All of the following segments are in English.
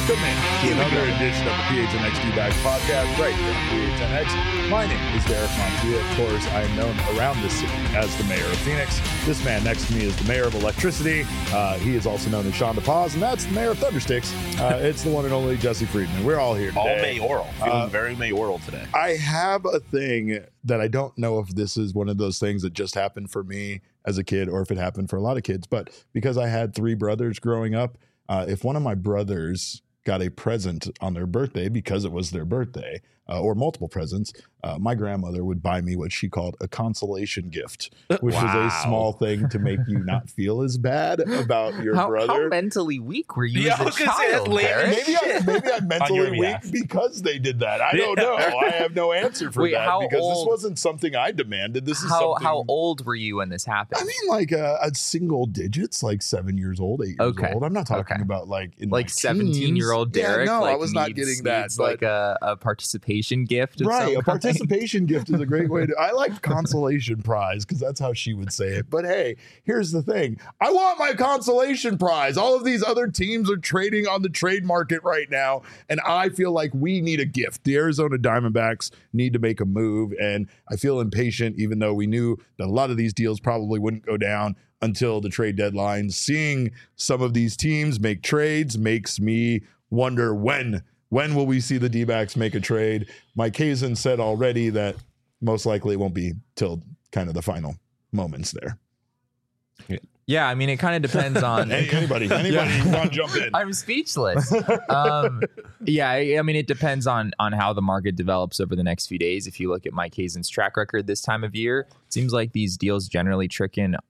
Welcome in to another edition of the PHNX D-Backs podcast right here on PHNX. My name is Derek Montiel. Of course, I am known around this city as the mayor of Phoenix. This man next to me is the mayor of Electricity. He is also known as Sean DePaz, and that's the mayor of Thundersticks. It's the one and only Jesse Friedman. We're all here today. All mayoral. Feeling very mayoral today. I have a thing that I don't know if this is one of those things that just happened for me as a kid or if it happened for a lot of kids, but because I had three brothers growing up, if one of my brothers got a present on their birthday because it was their birthday, or multiple presents, my grandmother would buy me what she called a consolation gift, which was a small thing to make you not feel as bad about your brother. How mentally weak were you as a child? Maybe I'm mentally weak because they did that. I don't know. I have no answer for that because this wasn't something I demanded. This is something. How old were you when this happened? I mean, like a single digits, like 7 years old, 8 years old. I'm not talking about like in like 17-year-old Derek. Yeah, no, like I was not getting that. It's like a participation gift. Right, a participation gift is a great way to. I like consolation prize because that's how she would say it. But hey, here's the thing: I want my consolation prize. All of these other teams are trading on the trade market right now, and I feel like we need a gift. The Arizona Diamondbacks need to make a move, and I feel impatient, even though we knew that a lot of these deals probably wouldn't go down until the trade deadline. Seeing some of these teams make trades makes me wonder when will we see the D-backs make a trade. Mike Hazen said already that most likely it won't be till kind of the final moments there. Yeah, I mean, it kind of depends on anybody want to jump in. I'm speechless. Yeah, I mean, it depends on how the market develops over the next few days. If you look at Mike Hazen's track record this time of year, it seems like these deals generally trickle in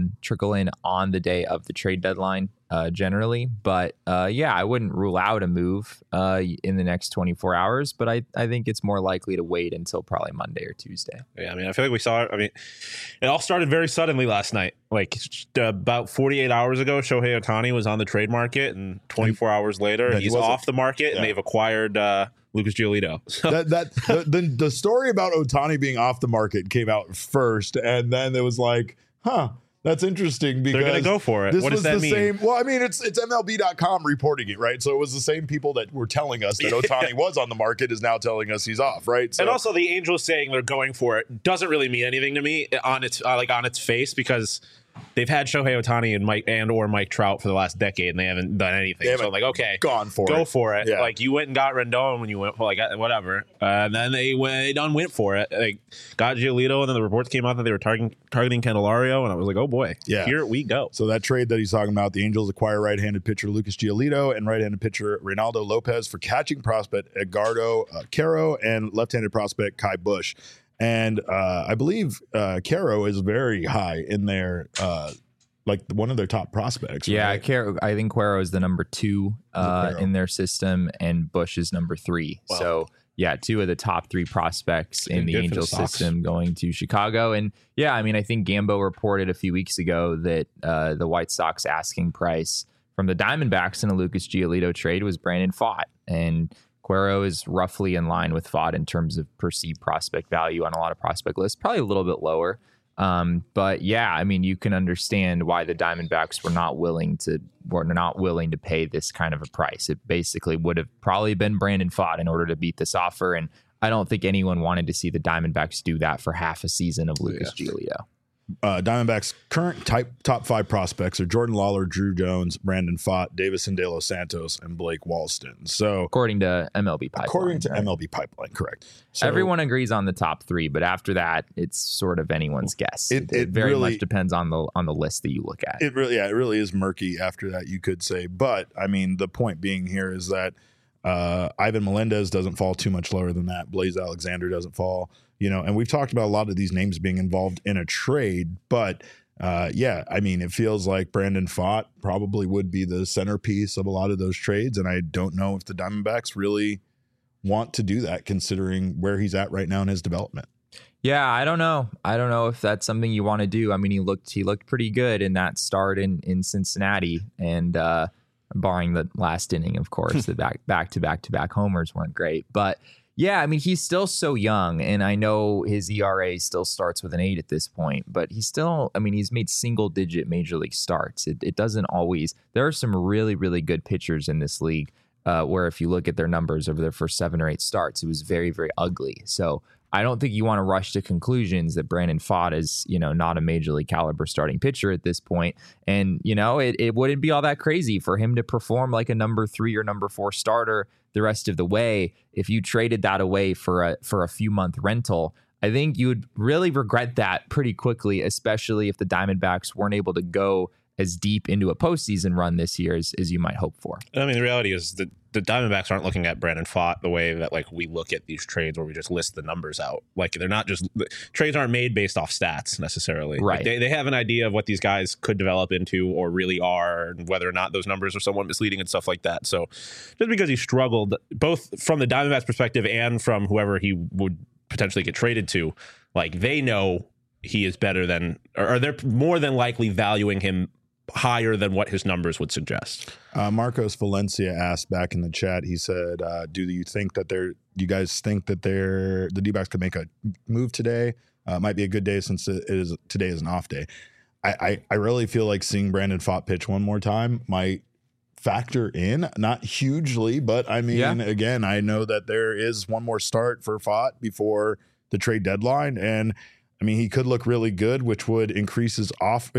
on the day of the trade deadline, generally. But yeah, I wouldn't rule out a move in the next 24 hours, but I think it's more likely to wait until probably Monday or Tuesday. Yeah, I mean, I feel like we saw it. I mean, it all started very suddenly last night. Like about 48 hours ago, Shohei Ohtani was on the trade market, and 24 hours later, he's off the market, and they've acquired Lucas Giolito. So. The story about Ohtani being off the market came out first, and then it was like, that's interesting because they're going to go for it. What does that mean? Same, well, I mean, it's MLB.com reporting it, right? So it was the same people that were telling us that Ohtani was on the market is now telling us he's off, right? So, and also the Angels saying they're going for it doesn't really mean anything to me on its face because they've had Shohei Ohtani and Mike Trout for the last decade, and they haven't done anything. So I'm like, okay, go for it. Yeah. Like you went and got Rendon when you went, like whatever. And then they went for it. Like got Giolito, and then the reports came out that they were targeting Candelario, and I was like, oh boy, here we go. So that trade that he's talking about, the Angels acquire right-handed pitcher Lucas Giolito and right-handed pitcher Reynaldo Lopez for catching prospect Edgardo Caro and left-handed prospect Kai Busch. And I believe Caro is very high in their like one of their top prospects. Yeah, right? I think Cuero is the number 2 in their system, and Busch is number 3. Wow. So yeah, 2 of the top 3 prospects in the Angels system going to Chicago. And yeah, I mean, I think Gambo reported a few weeks ago that the White Sox asking price from the Diamondbacks in a Lucas Giolito trade was Brandon Pfaadt, and Cuero is roughly in line with Pfaadt in terms of perceived prospect value on a lot of prospect lists, probably a little bit lower. But yeah, I mean, you can understand why the Diamondbacks were not willing to pay this kind of a price. It basically would have probably been Brandon Pfaadt in order to beat this offer. And I don't think anyone wanted to see the Diamondbacks do that for half a season of Lucas Giolito. Diamondbacks' current top 5 prospects are Jordan Lawler, Drew Jones, Brandon Pfaadt, Davison De Los Santos, and Blake Walston. So, according to MLB Pipeline. MLB Pipeline, correct. So, everyone agrees on the top 3, but after that, it's sort of anyone's guess. It very really, much depends on the list that you look at. It really is murky after that, you could say. But I mean, the point being here is that Ivan Melendez doesn't fall too much lower than that. Blaze Alexander doesn't fall. And we've talked about a lot of these names being involved in a trade, but yeah, I mean, it feels like Brandon Pfaadt probably would be the centerpiece of a lot of those trades, and I don't know if the Diamondbacks really want to do that considering where he's at right now in his development. Yeah, I don't know if that's something you want to do. I mean, he looked pretty good in that start in Cincinnati, and barring the last inning, of course, the back-to-back homers weren't great, but yeah, I mean, he's still so young, and I know his ERA still starts with an 8 at this point, but he's made single-digit major league starts. It doesn't always. There are some really, really good pitchers in this league where if you look at their numbers over their first 7 or 8 starts, it was very, very ugly. So I don't think you want to rush to conclusions that Brandon Pfaadt is, not a major league caliber starting pitcher at this point. And, it wouldn't be all that crazy for him to perform like a number 3 or number 4 starter the rest of the way. If you traded that away for a few month rental, I think you would really regret that pretty quickly, especially if the Diamondbacks weren't able to go as deep into a postseason run this year as you might hope for. I mean, the reality is that the Diamondbacks aren't looking at Brandon Pfaadt the way that like we look at these trades where we just list the numbers out. Like they're not just trades aren't made based off stats necessarily. Right. Like, they have an idea of what these guys could develop into or really are, and whether or not those numbers are somewhat misleading and stuff like that. So just because he struggled both from the Diamondbacks perspective and from whoever he would potentially get traded to, like they know he is better than, or they're more than likely valuing him higher than what his numbers would suggest. Marcos Valencia asked back in the chat, he said, do you think that you guys think that the D-backs could make a move today? Might be a good day since today is an off day. I really feel like seeing Brandon Pfaadt pitch one more time might factor in, not hugely, but I mean, again, I know that there is one more start for Pfaadt before the trade deadline, and I mean, he could look really good, which would increase his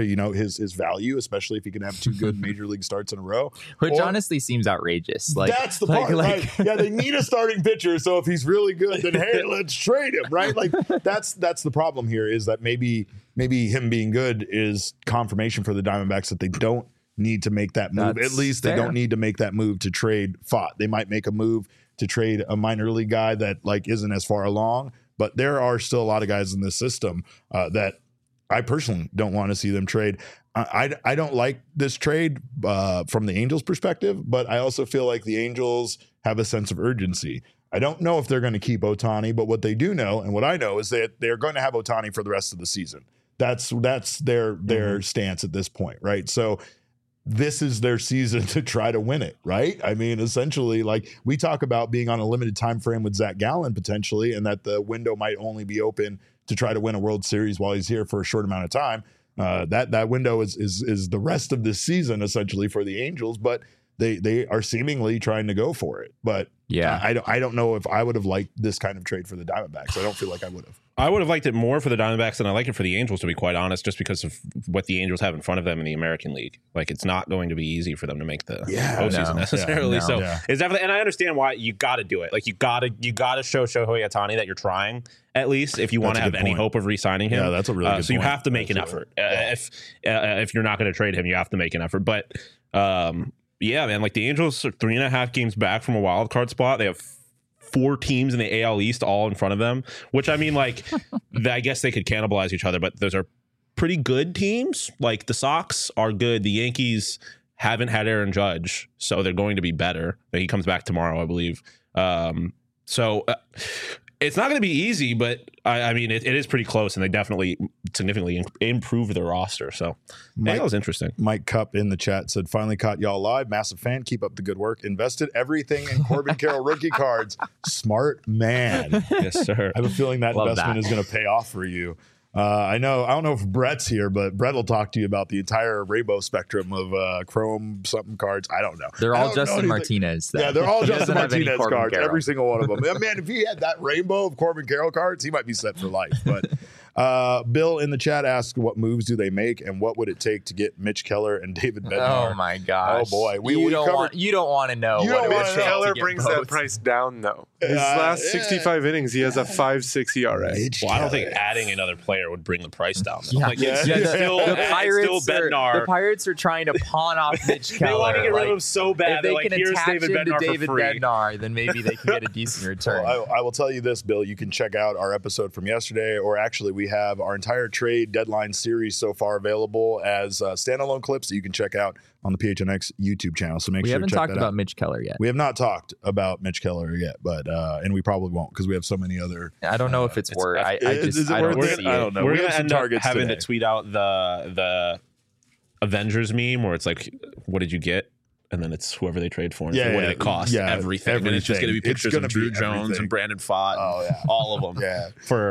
his value, especially if he can have 2 good major league starts in a row. Which honestly seems outrageous. Like that's the part, right? Yeah, they need a starting pitcher, so if he's really good, then hey, let's trade him, right? Like that's the problem here is that maybe him being good is confirmation for the Diamondbacks that they don't need to make that move. At least they don't need to make that move to trade Pfaadt. They might make a move to trade a minor league guy that like isn't as far along. But there are still a lot of guys in this system that I personally don't want to see them trade. I don't like this trade from the Angels' perspective, but I also feel like the Angels have a sense of urgency. I don't know if they're going to keep Ohtani, but what they do know, and what I know, is that they're going to have Ohtani for the rest of the season. That's their stance at this point, right? So this is their season to try to win it, right? I mean, essentially, like we talk about being on a limited time frame with Zach Gallen potentially, and that the window might only be open to try to win a World Series while he's here for a short amount of time. That window is the rest of this season essentially for the Angels, but they are seemingly trying to go for it. But yeah, I don't know if I would have liked this kind of trade for the Diamondbacks. I don't feel like I would have. I would have liked it more for the Diamondbacks than I like it for the Angels, to be quite honest, just because of what the Angels have in front of them in the American League. Like, it's not going to be easy for them to make the postseason necessarily. It's definitely, and I understand why you got to do it. Like, you got to show Shohei Ohtani that you're trying, at least, if you want to have any hope of re-signing him. Yeah, that's a really good point. So you have to make an effort. If you're not going to trade him, you have to make an effort. But yeah, man, like the Angels are 3.5 games back from a wild card spot. They have 4 teams in the AL East all in front of them, which I mean, like, I guess they could cannibalize each other, but those are pretty good teams. Like the Sox are good. The Yankees haven't had Aaron Judge, so they're going to be better. He comes back tomorrow, I believe. So it's not going to be easy, but I mean, it is pretty close, and they definitely significantly improved their roster. So that was interesting. Mike Cup in the chat said, finally caught y'all live. Massive fan. Keep up the good work. Invested everything in Corbin Carroll rookie cards. Smart man. Yes, sir. I have a feeling that investment is going to pay off for you. I don't know if Brett's here, but Brett will talk to you about the entire rainbow spectrum of Chrome something cards. I don't know. They're all Justin Martinez. Yeah, they're all Justin Martinez cards. Carroll. Every single one of them. Man, if he had that rainbow of Corbin Carroll cards, he might be set for life. But Bill in the chat asked, what moves do they make, and what would it take to get Mitch Keller and David Bednar? Oh my gosh! Oh boy, you don't want to know. Mitch Keller brings that price down though. His last 65 innings, he has a 5.6 ERA. Well, I don't think adding another player would bring the price down. The Pirates are trying to pawn off Mitch Keller. They want to get rid of him so bad. If they can attach him to David Bednar, then maybe they can get a decent return. Well, I will tell you this, Bill. You can check out our episode from yesterday, or actually we have our entire trade deadline series so far available as standalone clips that you can check out on the PHNX YouTube channel. So make sure we to haven't check talked that about out. Mitch Keller yet. We have not talked about Mitch Keller yet, but and we probably won't because we have so many other. I don't know if it's worth. I don't know. We're gonna end up having to tweet out the Avengers meme where it's like, "What did you get?" And then it's whoever they trade for. And what did it cost? Everything. And it's just going to be pictures of Drew Jones and Brandon Pfaadt. All of them. Yeah. For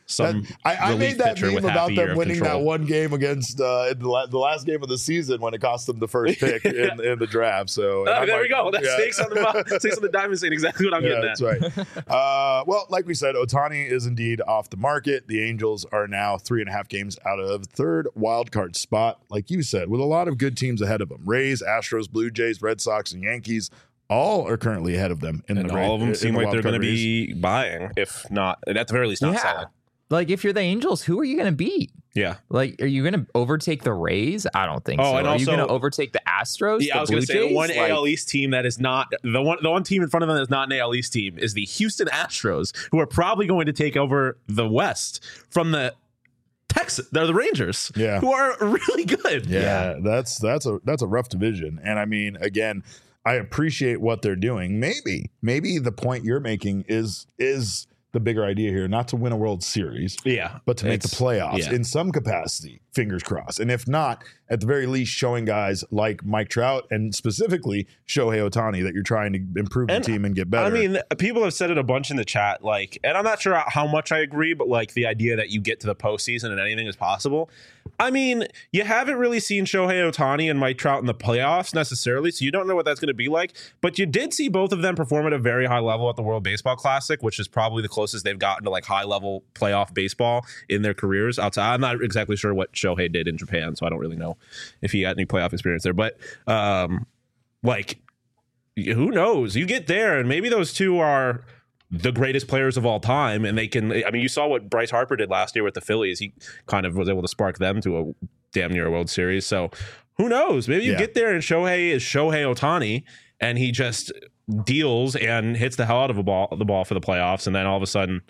I made that meme about them winning that one game against the last game of the season when it cost them the first pick in the draft. So there we go. That's Snakes on the Diamond saying exactly what I'm getting at. That's right. Well, like we said, Ohtani is indeed off the market. The Angels are now 3.5 games out of third wild card spot, like you said, with a lot of good teams ahead of them. Rays, Astros, Blue Jays, Red Sox, and Yankees all are currently ahead of them. All of them seem like they're going to be buying, if not, at the very least, not selling. Like, if you're the Angels, who are you going to beat? Yeah. Like, are you going to overtake the Rays? I don't think so. And are also, you going to overtake the Astros? Yeah, I was going to say the one AL East team that is not the one team in front of them that's not an AL East team is the Houston Astros, who are probably going to take over the West from the Texas. They're the Rangers, who are really good. Yeah, that's a rough division. And I mean, again, I appreciate what they're doing. Maybe the point you're making is the bigger idea here, not to win a World Series, but to make the playoffs in some capacity, fingers crossed. And if not, at the very least, showing guys like Mike Trout and specifically Shohei Ohtani that you're trying to improve the team and get better. I mean, people have said it a bunch in the chat, like, and I'm not sure how much I agree, but like the idea that you get to the postseason and anything is possible. I mean, you haven't really seen Shohei Ohtani and Mike Trout in the playoffs necessarily, so you don't know what that's going to be like. But you did see both of them perform at a very high level at the World Baseball Classic, which is probably the closest they've gotten to like high level playoff baseball in their careers. Outside, I'm not exactly sure what Shohei did in Japan, so I don't really know if he got any playoff experience there. But like, who knows? You get there, and maybe those two are the greatest players of all time, and they can. I mean, you saw what Bryce Harper did last year with the Phillies. He kind of was able to spark them to a damn near World Series. So who knows? Maybe you get there, and Shohei is Shohei Ohtani, and he just deals and hits the hell out of the ball for the playoffs, and then all of a sudden.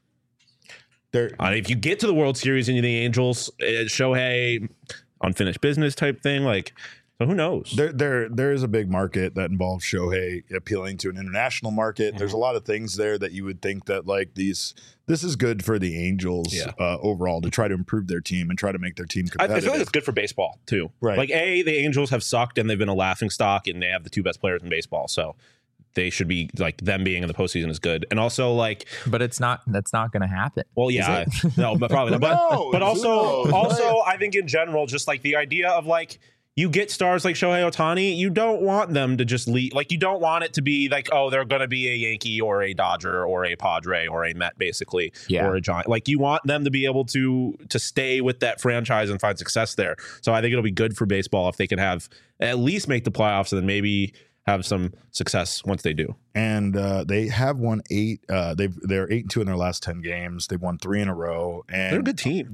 If you get to the World Series and you're the Angels, Shohei, unfinished business type thing, like, so who knows? There is a big market that involves Shohei appealing to an international market. Mm-hmm. There's a lot of things there that you would think that like this is good for the Angels overall to try to improve their team and try to make their team competitive. I feel like it's good for baseball too. Right. Like the Angels have sucked and they've been a laughing stock and they have the two best players in baseball. So they should be like them being in the postseason is good. And also like, but that's not going to happen. Well, yeah, no, but probably not. But also I think in general, just like the idea of like, you get stars like Shohei Ohtani, you don't want them to just leave. Like, you don't want it to be like, oh, they're going to be a Yankee or a Dodger or a Padre or a Met, basically, or a Giant. Like, you want them to be able to stay with that franchise and find success there. So I think it'll be good for baseball if they can have at least make the playoffs and then maybe have some success once they do. And they have won 8. They're 8-2 in their last 10 games. They've won 3 in a row. And they're a good team.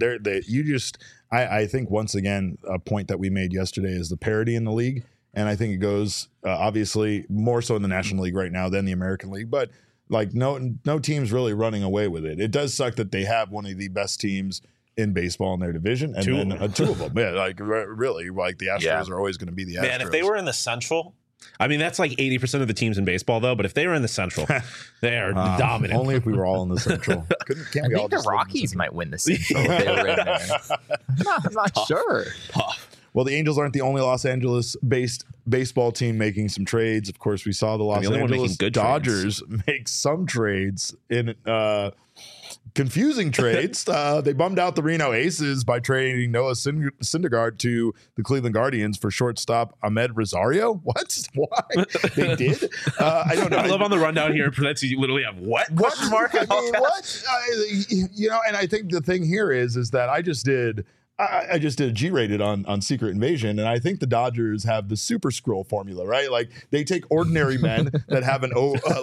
I think once again, a point that we made yesterday is the parity in the league. And I think it goes obviously more so in the National League right now than the American League. But like no team's really running away with it. It does suck that they have one of the best teams in baseball in their division. And then two of them. Yeah, like really, like the Astros are always going to be the Astros. Man, if they were in the Central, I mean, that's like 80% of the teams in baseball, though. But if they were in the Central, they are dominant. Only if we were all in the Central. I think the Rockies might win the Central if they were in there. I'm not sure. Tough. Well, the Angels aren't the only Los Angeles-based baseball team making some trades. Of course, we saw the Los Angeles Dodgers make some trades in confusing trades. They bummed out the Reno Aces by trading Noah Syndergaard to the Cleveland Guardians for shortstop Ahmed Rosario. What? Why? They did? I don't know. I love on the rundown here. You literally have what? Question mark? I mean, what? And I think the thing here is that I just did a G-rated on Secret Invasion, and I think the Dodgers have the super scroll formula, right? Like they take ordinary men that have an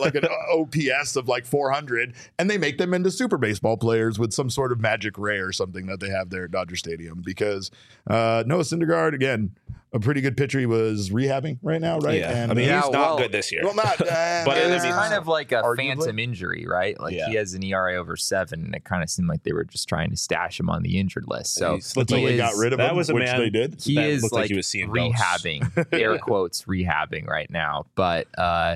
OPS of like 400, and they make them into super baseball players with some sort of magic ray or something that they have there at Dodger Stadium. Because Noah Syndergaard, again, a pretty good pitcher. He was rehabbing right now, right? Yeah. And, I mean, he's not good this year. Well, not. But it's kind of like a phantom injury, right? Like he has an ERA over 7, and it kind of seemed like they were just trying to stash him on the injured list. So they got rid of him, which they did. He is like he was rehabbing, air quotes, rehabbing right now. But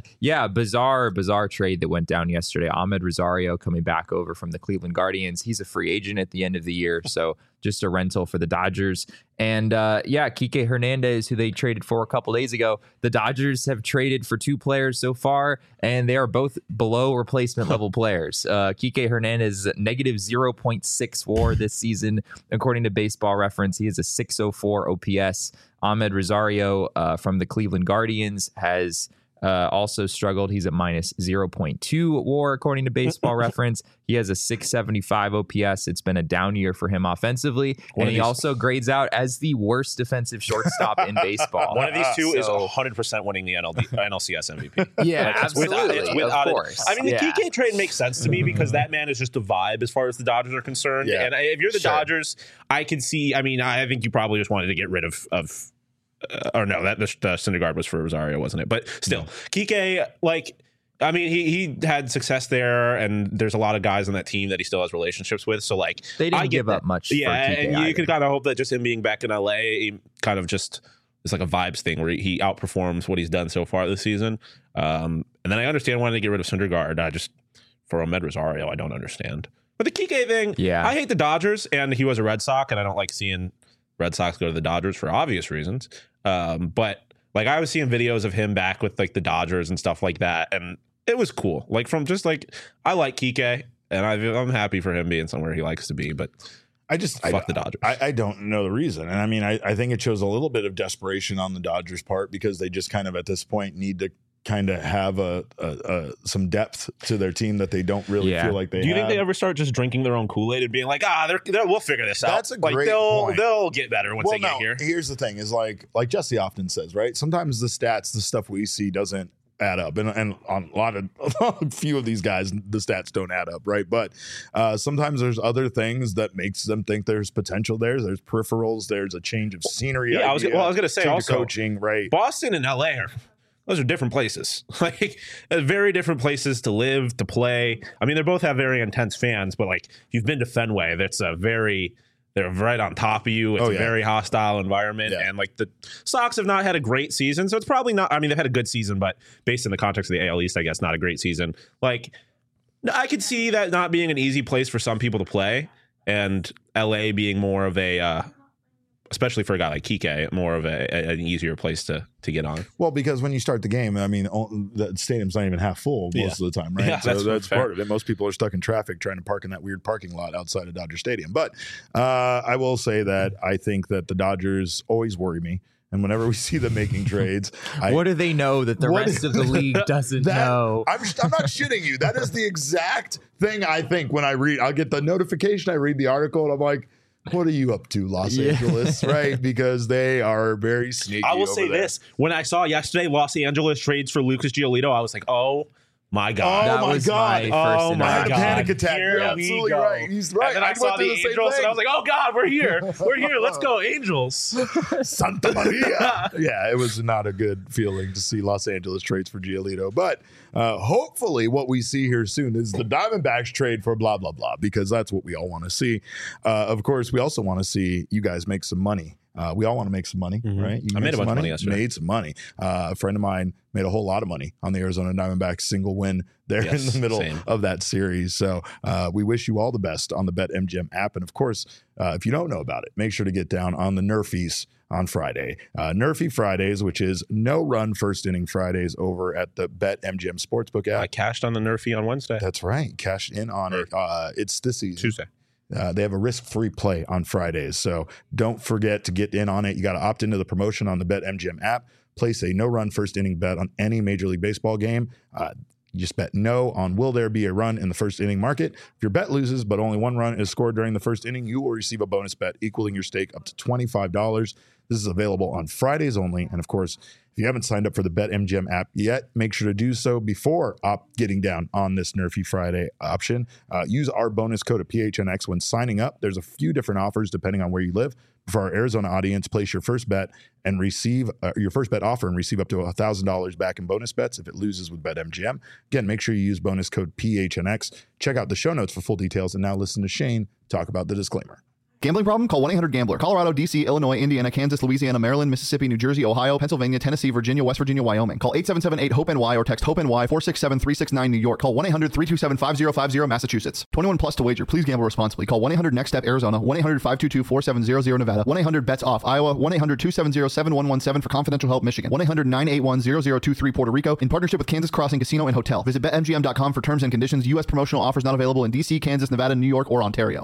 bizarre trade that went down yesterday. Ahmed Rosario coming back over from the Cleveland Guardians. He's a free agent at the end of the year, so just a rental for the Dodgers. And Kike Hernandez, who they traded for a couple days ago, the Dodgers have traded for 2 players so far, and they are both below replacement level players. Kike Hernandez is negative 0.6 WAR this season, according to Baseball Reference. He has a 604 OPS. Ahmed Rosario from the Cleveland Guardians has also struggled. He's at minus 0.2 WAR, according to Baseball Reference. He has a 675 OPS. It's been a down year for him offensively. And he also grades out as the worst defensive shortstop in baseball. One of these two is 100% winning the NLCS MVP. Yeah, absolutely. Of course. I mean, the Kike trade makes sense to me because that man is just a vibe as far as the Dodgers are concerned. Yeah. And if you're the Dodgers, I can see, I mean, I think you probably just wanted to get rid of or no, that the Syndergaard was for Rosario, wasn't it? But still, Kike, like, I mean, he had success there, and there's a lot of guys on that team that he still has relationships with. So, like, they didn't give up much. Yeah, for Kike and either. you could kind of hope that just him being back in LA, he kind of just it's like a vibes thing where he outperforms what he's done so far this season. And then I understand wanting to get rid of Syndergaard. I just for Ahmed Rosario, I don't understand. But the Kike thing, I hate the Dodgers, and he was a Red Sox, and I don't like seeing Red Sox go to the Dodgers for obvious reasons. But like I was seeing videos of him back with like the Dodgers and stuff like that, and it was cool. Like from just like I like Kike, and I'm happy for him being somewhere he likes to be. But fuck the Dodgers. I don't know the reason, and I mean I think it shows a little bit of desperation on the Dodgers' part because they just kind of at this point need to kind of have some depth to their team that they don't really feel like they have. Do you think they ever start just drinking their own Kool-Aid and being like, we'll figure this out? That's a great point. They'll get better once they get here. Here's the thing is like Jesse often says, right? Sometimes the stats, the stuff we see doesn't add up. And on a few of these guys, the stats don't add up, right? But sometimes there's other things that makes them think there's potential there. There's peripherals. There's a change of scenery. Yeah, I was going to say also coaching, right? Boston and LA those are different places, like very different places to live, to play. I mean, they both have very intense fans, but like you've been to Fenway, they're right on top of you. It's a very hostile environment. Yeah. And like the Sox have not had a great season. So it's probably not, I mean, they've had a good season, but based in the context of the AL East, I guess not a great season. Like I could see that not being an easy place for some people to play, and LA being more of a, especially for a guy like Kike, more of an easier place to get on. Well, because when you start the game, I mean, the stadium's not even half full most of the time, right? Yeah, so that's part of it. Most people are stuck in traffic trying to park in that weird parking lot outside of Dodger Stadium. But I will say that I think that the Dodgers always worry me. And whenever we see them making trades, what do they know that the rest of the league doesn't know? I'm not shitting you. That is the exact thing I think when I'll get the notification, I read the article, and I'm like, what are you up to, Los Angeles, right? Because they are very sneaky. I will say this. When I saw yesterday Los Angeles trades for Lucas Giolito, I was like, oh my God. That was my first panic attack. You're absolutely right. He's right. And then I saw the Angels, and I was like, oh God, we're here. We're here. Let's go, Angels. Santa Maria. Yeah, it was not a good feeling to see Los Angeles trades for Giolito. But hopefully what we see here soon is the Diamondbacks trade for blah, blah, blah, because that's what we all want to see. Of course, we also want to see you guys make some money. We all want to make some money, right? I made a bunch of money yesterday. Made some money. A friend of mine made a whole lot of money on the Arizona Diamondbacks single win there in the middle of that series. So we wish you all the best on the BetMGM app. And of course, if you don't know about it, make sure to get down on the Nerfies on Friday. Nerfy Fridays, which is no run first inning Fridays over at the BetMGM Sportsbook app. I cashed on the Nerfy on Wednesday. That's right. Cashed in on it. It's this season. Tuesday. They have a risk-free play on Fridays, so don't forget to get in on it. You got to opt into the promotion on the BetMGM app. Place a no-run first-inning bet on any Major League Baseball game. You just bet no on will there be a run in the first inning market. If your bet loses but only one run is scored during the first inning, you will receive a bonus bet equaling your stake up to $25. This is available on Fridays only. And of course, if you haven't signed up for the BetMGM app yet, make sure to do so before getting down on this Nerfy Friday option. Use our bonus code of PHNX when signing up. There's a few different offers depending on where you live. For our Arizona audience, place your first bet and receive your first bet offer and receive up to $1,000 back in bonus bets if it loses with BetMGM. Again, make sure you use bonus code PHNX. Check out the show notes for full details. And now listen to Shane talk about the disclaimer. Gambling problem? Call 1-800-GAMBLER. Colorado, D.C., Illinois, Indiana, Kansas, Louisiana, Maryland, Mississippi, New Jersey, Ohio, Pennsylvania, Tennessee, Virginia, West Virginia, Wyoming. Call 877-8-HOPE-NY or text HOPE-NY 467-369 New York. Call 1-800-327-5050 Massachusetts. 21 plus to wager. Please gamble responsibly. Call 1-800-NEXT-STEP Arizona. 1-800-522-4700 Nevada. 1-800-BETS-OFF Iowa. 1-800-270-7117 for confidential help Michigan. 1-800-981-0023 Puerto Rico. In partnership with Kansas Crossing Casino and Hotel. Visit BetMGM.com for terms and conditions. U.S. promotional offers not available in D.C., Kansas, Nevada, New York, or Ontario.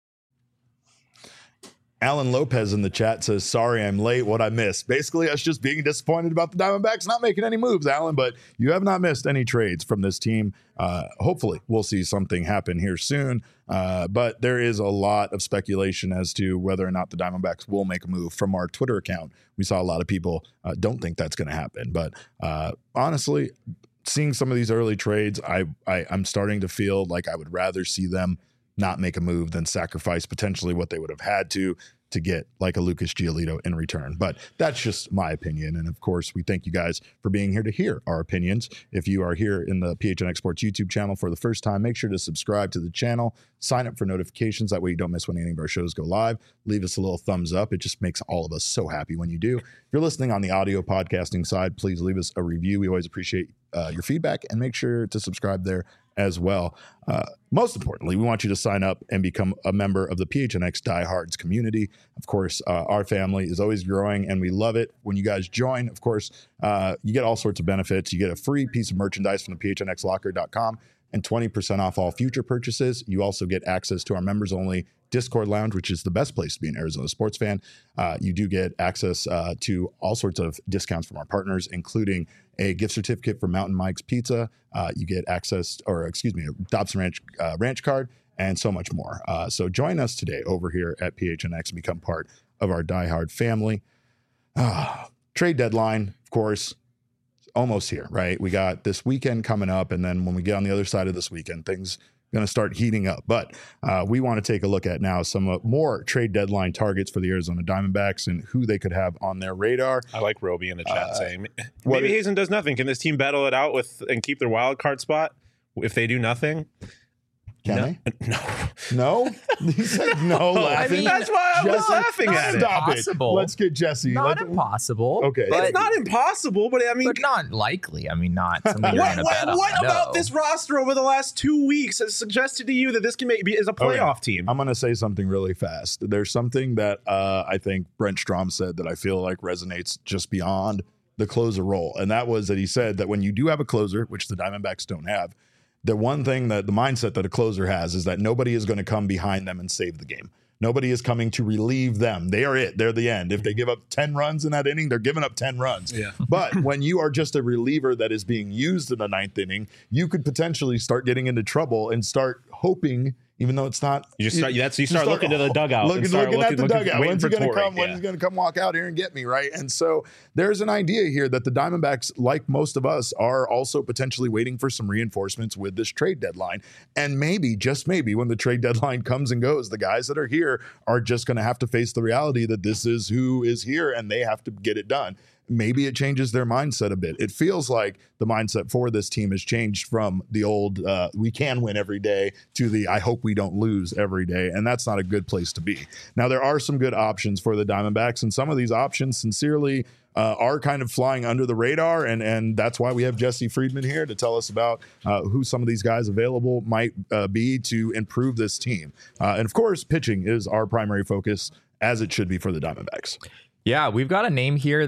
Alan Lopez in the chat says, sorry, I'm late. What I missed? Basically, us just being disappointed about the Diamondbacks not making any moves, Alan, but you have not missed any trades from this team. Hopefully, we'll see something happen here soon. But there is a lot of speculation as to whether or not the Diamondbacks will make a move. From our Twitter account, we saw a lot of people don't think that's going to happen. But honestly, seeing some of these early trades, I'm starting to feel like I would rather see them not make a move than sacrifice potentially what they would have had to get like a Lucas Giolito in return. But that's just my opinion. And of course, we thank you guys for being here to hear our opinions. If you are here in the PHNX Sports YouTube channel for the first time, make sure to subscribe to the channel, sign up for notifications. That way you don't miss when any of our shows go live. Leave us a little thumbs up. It just makes all of us so happy when you do. If you're listening on the audio podcasting side, please leave us a review. We always appreciate your feedback, and make sure to subscribe there as well. Most importantly, we want you to sign up and become a member of the PHNX Diehards community. Of course, our family is always growing, and we love it when you guys join. Of course, you get all sorts of benefits. You get a free piece of merchandise from the phnxlocker.com and 20% off all future purchases. You also get access to our members-only Discord Lounge, which is the best place to be an Arizona sports fan. You do get access to all sorts of discounts from our partners, including a gift certificate for Mountain Mike's Pizza. You get access, a Dobson Ranch card, and so much more. So join us today over here at PHNX and become part of our diehard family. Trade deadline, of course, almost here, right? We got this weekend coming up, and then when we get on the other side of this weekend, things going to start heating up. But we want to take a look at now some more trade deadline targets for the Arizona Diamondbacks and who they could have on their radar. I like Roby in the chat saying maybe Hazen does nothing. Can this team battle it out with and keep their wild card spot if they do nothing? Can they? No. He said no, laughing. I mean, that's why I was laughing at it. Stop impossible. it. Let's get Jesse. Not impossible. Okay. It's not impossible, but I mean... But not likely. I mean, not something you're going to bet on. What about this roster over the last 2 weeks has suggested to you that this can be is a playoff team? I'm going to say something really fast. There's something that I think Brent Strom said that I feel like resonates just beyond the closer role. And that was that he said that when you do have a closer, which the Diamondbacks don't have, the one thing that the mindset that a closer has is that nobody is going to come behind them and save the game. Nobody is coming to relieve them. They are it. They're the end. If they give up 10 runs in that inning, they're giving up 10 runs. Yeah. But when you are just a reliever that is being used in the ninth inning, you could potentially start getting into trouble and start hoping, even though it's not. You start looking to the dugout. Looking at the dugout. When's he going to come? Yeah. When's he going to come walk out here and get me, right? And so there's an idea here that the Diamondbacks, like most of us, are also potentially waiting for some reinforcements with this trade deadline. And maybe, just maybe, when the trade deadline comes and goes, the guys that are here are just going to have to face the reality that this is who is here and they have to get it done. Maybe it changes their mindset a bit. It feels like the mindset for this team has changed from the old we can win every day to the I hope we don't lose every day. And that's not a good place to be. Now, there are some good options for the Diamondbacks, and some of these options sincerely are kind of flying under the radar. And that's why we have Jesse Friedman here to tell us about who some of these guys available might be to improve this team. And of course, pitching is our primary focus, as it should be for the Diamondbacks. Yeah, we've got a name here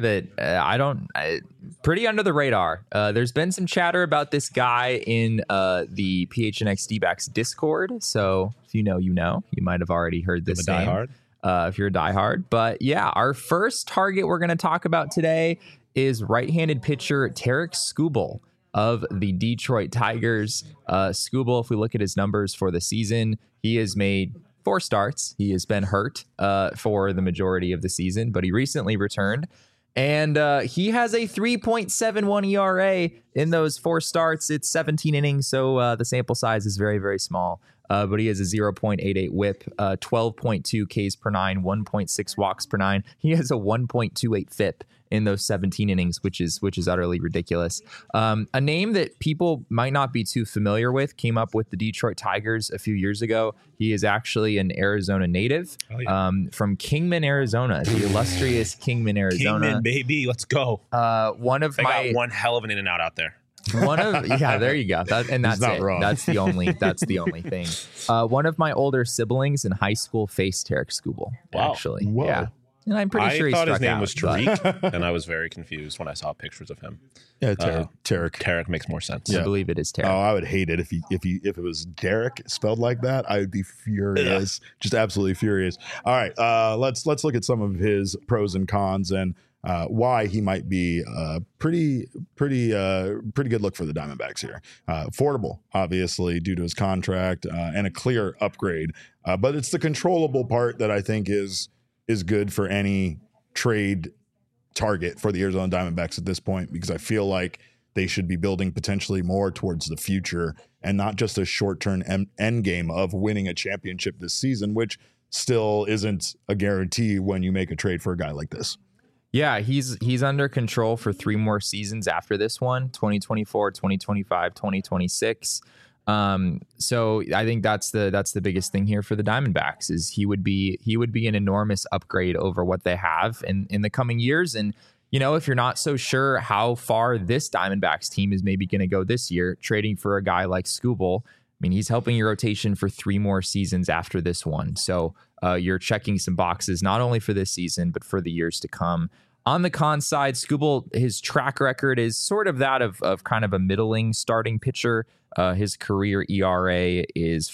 that pretty under the radar. There's been some chatter about this guy in the PHNX D-backs Discord. So if you know, you might have already heard this name. If you're a diehard. But yeah, our first target we're going to talk about today is right-handed pitcher Tarik Skubal of the Detroit Tigers. Skubal, if we look at his numbers for the season, he has made 4 starts. He has been hurt for the majority of the season, but he recently returned. And he has a 3.71 ERA in those 4 starts. It's 17 innings, so the sample size is very, very small. but he has a 0.88 whip, 12.2 Ks per 9, 1.6 walks per 9. He has a 1.28 FIP in those 17 innings, which is utterly ridiculous. A name that people might not be too familiar with came up with the Detroit Tigers a few years ago. He is actually an Arizona native from Kingman, Arizona, the illustrious Kingman, Arizona. Kingman, baby, let's go. Got one hell of an in and out out there. There you go. That's it. Wrong. That's the only thing. One of my older siblings in high school faced Tarik Skubal. Wow. Actually, Whoa. Yeah. And I'm pretty sure he thought his name out, was Tariq, and I was very confused when I saw pictures of him. Yeah, Tarik. Tarik makes more sense. I believe it is Tarik. Oh, I would hate it if it was Derek spelled like that. I would be furious, just absolutely furious. All right, let's look at some of his pros and cons and why he might be pretty good look for the Diamondbacks here. Affordable, obviously, due to his contract, and a clear upgrade. But it's the controllable part that I think is good for any trade target for the Arizona Diamondbacks at this point, because I feel like they should be building potentially more towards the future and not just a short-term end game of winning a championship this season, which still isn't a guarantee when you make a trade for a guy like this. Yeah, he's under control for 3 more seasons after this one, 2024, 2025, 2026. So I think that's the biggest thing here for the Diamondbacks is he would be an enormous upgrade over what they have in the coming years. And, you know, if you're not so sure how far this Diamondbacks team is maybe going to go this year, trading for a guy like Skubal, I mean, he's helping your rotation for 3 more seasons after this one. So you're checking some boxes, not only for this season, but for the years to come. On the con side, Skubal, his track record is sort of that of kind of a middling starting pitcher. His career ERA is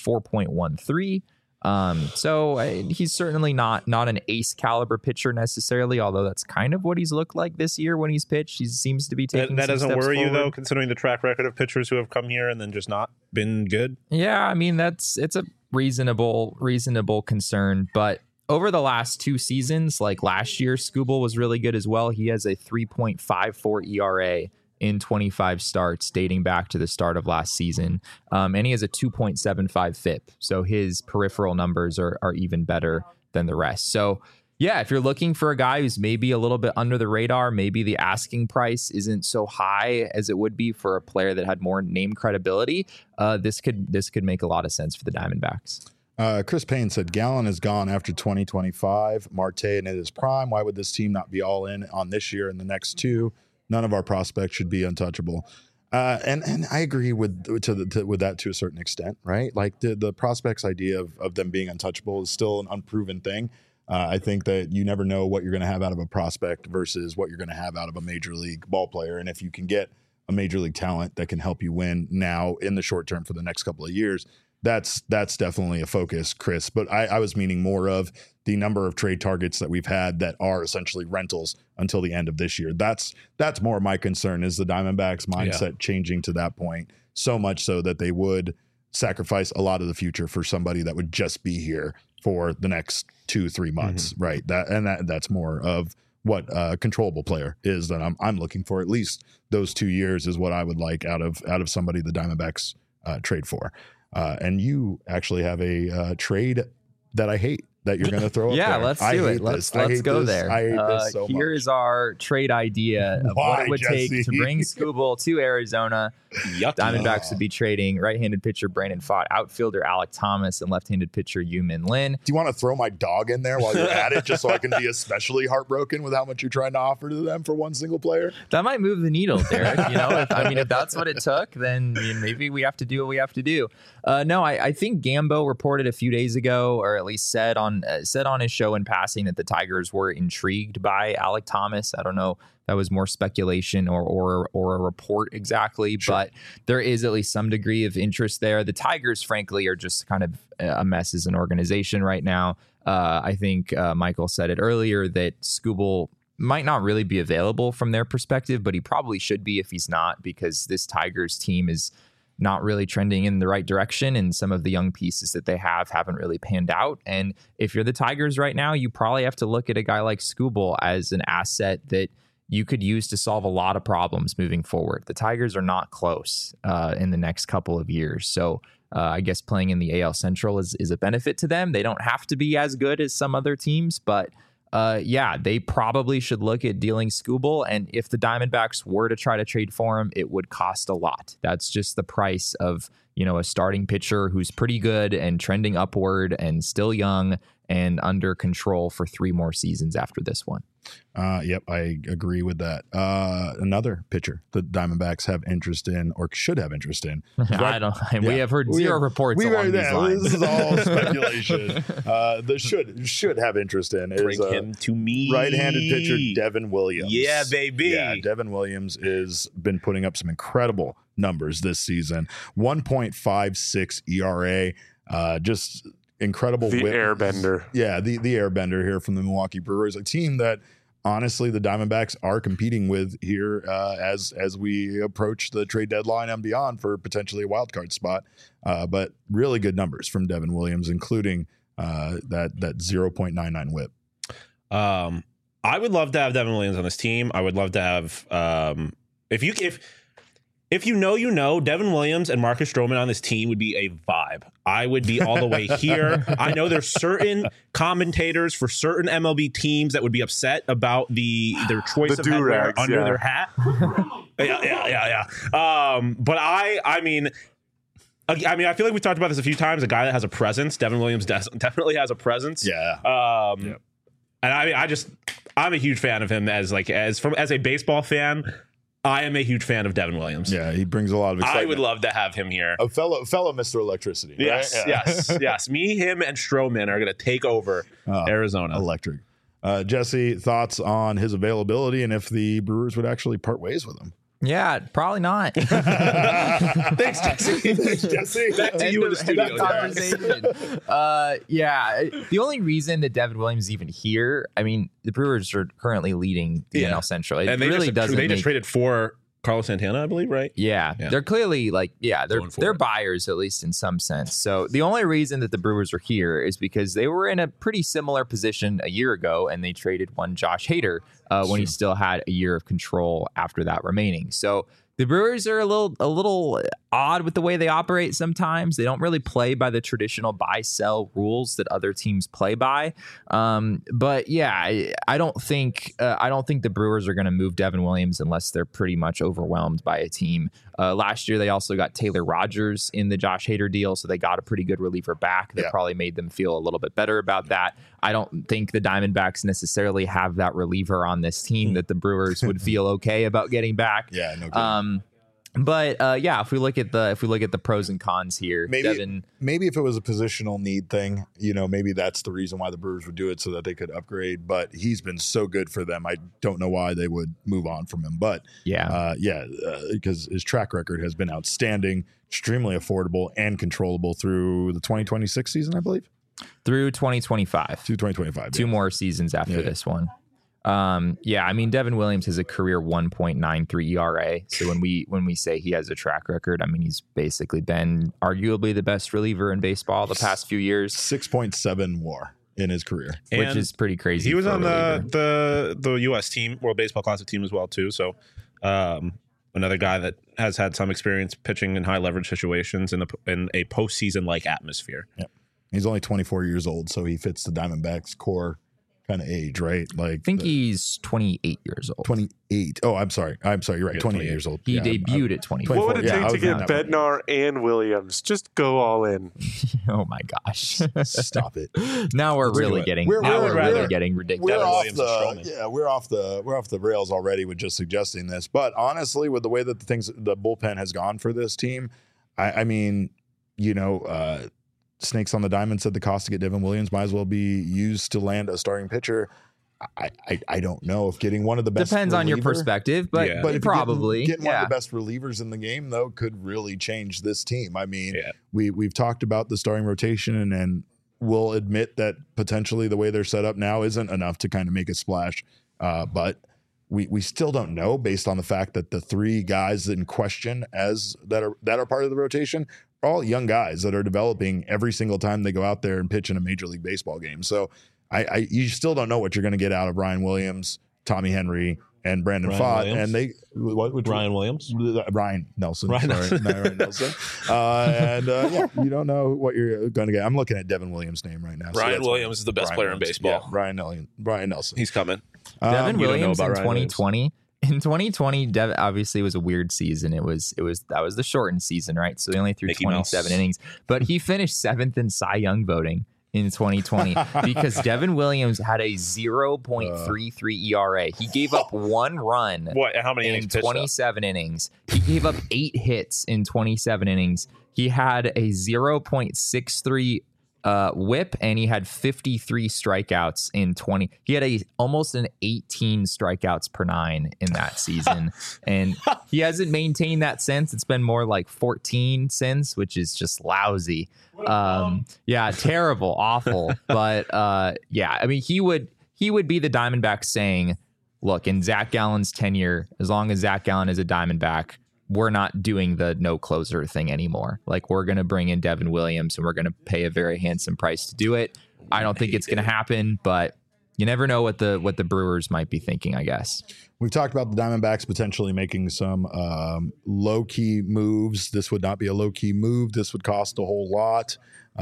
4.13. So he's certainly not an ace caliber pitcher necessarily, although that's kind of what he's looked like this year when he's pitched. He seems to be taking that doesn't worry forward. You, though, considering the track record of pitchers who have come here and then just not been good? Yeah, I mean, it's a reasonable concern, but over the last 2 seasons, like last year, Skubal was really good as well. He has a 3.54 ERA in 25 starts dating back to the start of last season. And he has a 2.75 FIP. So his peripheral numbers are even better than the rest. So yeah, if you're looking for a guy who's maybe a little bit under the radar, maybe the asking price isn't so high as it would be for a player that had more name credibility, this could make a lot of sense for the Diamondbacks. Chris Payne said Gallen is gone after 2025. Marte in his prime. Why would this team not be all in on this year and the next 2? None of our prospects should be untouchable. And I agree with that to a certain extent, right? Like the prospects idea of them being untouchable is still an unproven thing. I think that you never know what you're going to have out of a prospect versus what you're going to have out of a major league ball player. And if you can get a major league talent that can help you win now in the short term for the next couple of years, that's definitely a focus, Chris. But I was meaning more of the number of trade targets that we've had that are essentially rentals until the end of this year. That's more my concern, is the Diamondbacks mindset changing to that point, so much so that they would sacrifice a lot of the future for somebody that would just be here for the next 2-3 months, right? That's more of what a controllable player is that I'm looking for. At least those 2 years is what I would like out of somebody the Diamondbacks trade for. And you actually have a trade that I hate that you're going to throw up there. Let's do it. Let's go there. I hate this so much. Here's our trade idea of what it would take to bring Skubal to Arizona. Diamondbacks would be trading right-handed pitcher Brandon Pfaadt, outfielder Alek Thomas, and left-handed pitcher Yu-Min Lin. Do you want to throw my dog in there while you're at it, just so I can be especially heartbroken with how much you're trying to offer to them for one single player? That might move the needle, Derek. You know, if that's what it took, then maybe we have to do what we have to do. No, I think Gambo reported a few days ago, or at least said on his show in passing, that the Tigers were intrigued by Alek Thomas. I don't know. That was more speculation or a report exactly, but there is at least some degree of interest there. The Tigers, frankly, are just kind of a mess as an organization right now. I think Michael said it earlier that Skubal might not really be available from their perspective, but he probably should be if he's not, because this Tigers team is not really trending in the right direction, and some of the young pieces that they haven't really panned out. And if you're the Tigers right now, you probably have to look at a guy like Skubal as an asset that you could use to solve a lot of problems moving forward. The Tigers are not close in the next couple of years. So I guess playing in the AL Central is a benefit to them. They don't have to be as good as some other teams, but they probably should look at dealing Skubal. And if the Diamondbacks were to try to trade for him, it would cost a lot. That's just the price of, a starting pitcher who's pretty good and trending upward and still young and under control for 3 more seasons after this one. Yep, I agree with that. Another pitcher the Diamondbacks have interest in, or should have interest in. We have heard zero reports along these lines. This is all speculation. The should have interest in is bring him to me. Right-handed pitcher Devin Williams. Yeah, baby. Yeah, Devin Williams has been putting up some incredible numbers this season. 1.56 ERA. Just incredible the whip. Airbender. Yeah, the Airbender here from the Milwaukee Brewers, a team that honestly the Diamondbacks are competing with here as we approach the trade deadline and beyond for potentially a wild card spot. But really good numbers from Devin Williams, including that 0.99 whip. I would love to have Devin Williams on this team. I would love to have if Devin Williams and Marcus Stroman on this team would be a vibe. I would be all the way here. I know there's certain commentators for certain MLB teams that would be upset about their choice of headwear under their hat. Yeah. But I mean, I feel like we talked about this a few times. A guy that has a presence. Devin Williams definitely has a presence. Yeah. And I'm a huge fan of him as a baseball fan. I am a huge fan of Devin Williams. Yeah, he brings a lot of excitement. I would love to have him here. A fellow Mr. Electricity. Yes, right? Yeah. yes. Me, him, and Stroman are going to take over Arizona. Electric. Jesse, thoughts on his availability and if the Brewers would actually part ways with him? Yeah, probably not. Thanks, Jesse. Back to you in the studio. Conversation. The only reason that Devin Williams is even here, I mean, the Brewers are currently leading the NL Central. It really doesn't. They just traded for Carlos Santana, I believe, right? Yeah. They're clearly they're buyers, at least in some sense. So the only reason that the Brewers are here is because they were in a pretty similar position a year ago, and they traded one Josh Hader when he still had a year of control after that remaining. So the Brewers are a little odd with the way they operate sometimes. They don't really play by the traditional buy-sell rules that other teams play by. But yeah, I don't think the Brewers are going to move Devin Williams unless they're pretty much overwhelmed by a team. Last year, they also got Taylor Rogers in the Josh Hader deal, so they got a pretty good reliever back. That probably made them feel a little bit better about that. I don't think the Diamondbacks necessarily have that reliever on this team that the Brewers would feel okay about getting back. Yeah, no kidding. But if we look at the pros and cons here, maybe if it was a positional need thing, maybe that's the reason why the Brewers would do it so that they could upgrade. But he's been so good for them, I don't know why they would move on from him. But because his track record has been outstanding, extremely affordable and controllable through the 2026 season, I believe. Through 2025. To 2025. Two more seasons after this one. I mean, Devin Williams has a career 1.93 ERA. So when we say he has a track record, I mean, he's basically been arguably the best reliever in baseball the past few years. 6.7 WAR in his career, which is pretty crazy. He was on the U.S. team, World Baseball Classic team as well too. So another guy that has had some experience pitching in high leverage situations in a postseason like atmosphere. Yep. He's only 24 years old, so he fits the Diamondbacks core kind of age, right? Like, I think he's 28 years old. 28. Oh, I'm sorry. You're right. 28 years old. He debuted at 24. What would it take to get Bednar and Williams? Just go all in. Oh my gosh! Stop it. Now we're really getting ridiculous. We're off the rails already with just suggesting this. But honestly, with the way that the bullpen has gone for this team, I mean, Snakes on the Diamond said the cost to get Devin Williams might as well be used to land a starting pitcher. I don't know if getting one of the best depends on your perspective, but probably getting one of the best relievers in the game though could really change this team. I mean, we've talked about the starting rotation and we'll admit that potentially the way they're set up now isn't enough to kind of make a splash. But we still don't know based on the fact that the three guys in question that are part of the rotation are all young guys that are developing every single time they go out there and pitch in a Major League Baseball game. So you still don't know what you're going to get out of Ryan Williams, Tommy Henry, and Brandon Pfaadt, and they Ryan Williams, Ryan Nelson, Ryan Nelson, and you don't know what you're going to get. I'm looking at Devin Williams' name right now. Ryan Williams is the best player in baseball. Yeah, Ryan Nelson, he's coming. Devin Williams in 2020. In 2020, Devin obviously was a weird season. That was the shortened season, right? So he only threw 27 innings, but he finished 7th in Cy Young voting in 2020 because Devin Williams had a 0.33 ERA. He gave up 1 run. How many innings? In 27 innings. He gave up 8 hits in 27 innings. He had a 0.63 whip, and he had 53 strikeouts in 20. He had almost an 18 strikeouts per 9 in that season, and he hasn't maintained that since. It's been more like 14 since, which is just lousy. Terrible, awful. But I mean, he would be the Diamondbacks saying, look, in Zach Gallen's tenure, as long as Zach Gallen is a Diamondback, we're not doing the no closer thing anymore. Like, we're going to bring in Devin Williams and we're going to pay a very handsome price to do it. I don't think it's going to happen, but you never know what the Brewers might be thinking, I guess. We've talked about the Diamondbacks potentially making some low-key moves. This would not be a low-key move. This would cost a whole lot.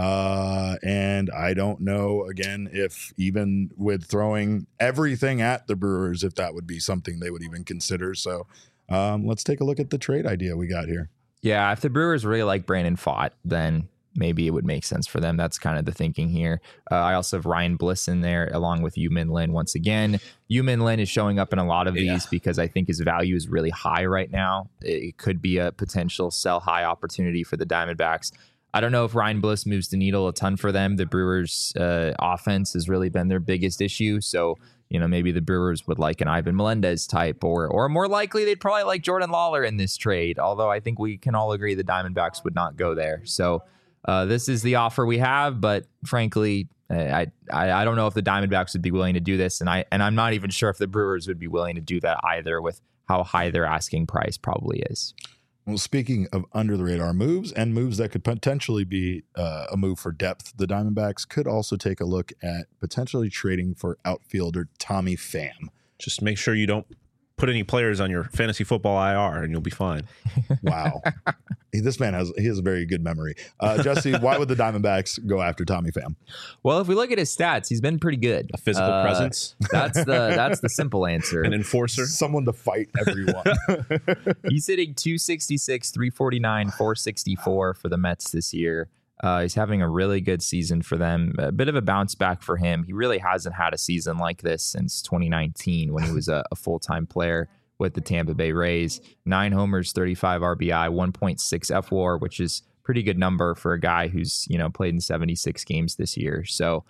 And I don't know, again, if even with throwing everything at the Brewers, if that would be something they would even consider. So let's take a look at the trade idea we got here. Yeah, if the Brewers really like Brandon Pfaadt, then maybe it would make sense for them. That's kind of the thinking here. I also have Ryan Bliss in there along with Yu-Min Lin. Once again, Yu-Min Lin is showing up in a lot of these because I think his value is really high right now. It could be a potential sell high opportunity for the Diamondbacks. I don't know if Ryan Bliss moves the needle a ton for them. The Brewers' offense has really been their biggest issue. So, maybe the Brewers would like an Ivan Melendez type, or more likely they'd probably like Jordan Lawler in this trade. Although I think we can all agree the Diamondbacks would not go there. So this is the offer we have, but frankly, I don't know if the Diamondbacks would be willing to do this, and I'm not even sure if the Brewers would be willing to do that either, with how high their asking price probably is. Well, speaking of under the radar moves and moves that could potentially be a move for depth, the Diamondbacks could also take a look at potentially trading for outfielder Tommy Pham. Just make sure you don't put any players on your fantasy football IR and you'll be fine. Wow. This man has a very good memory. Jesse, why would the Diamondbacks go after Tommy Pham? Well, if we look at his stats, he's been pretty good. A physical presence. That's the simple answer. An enforcer. Someone to fight everyone. He's hitting 266, 349, 464 for the Mets this year. He's having a really good season for them. A bit of a bounce back for him. He really hasn't had a season like this since 2019 when he was a full-time player with the Tampa Bay Rays. 9 homers, 35 RBI, 1.6 FWAR, which is pretty good number for a guy who's, played in 76 games this year. So,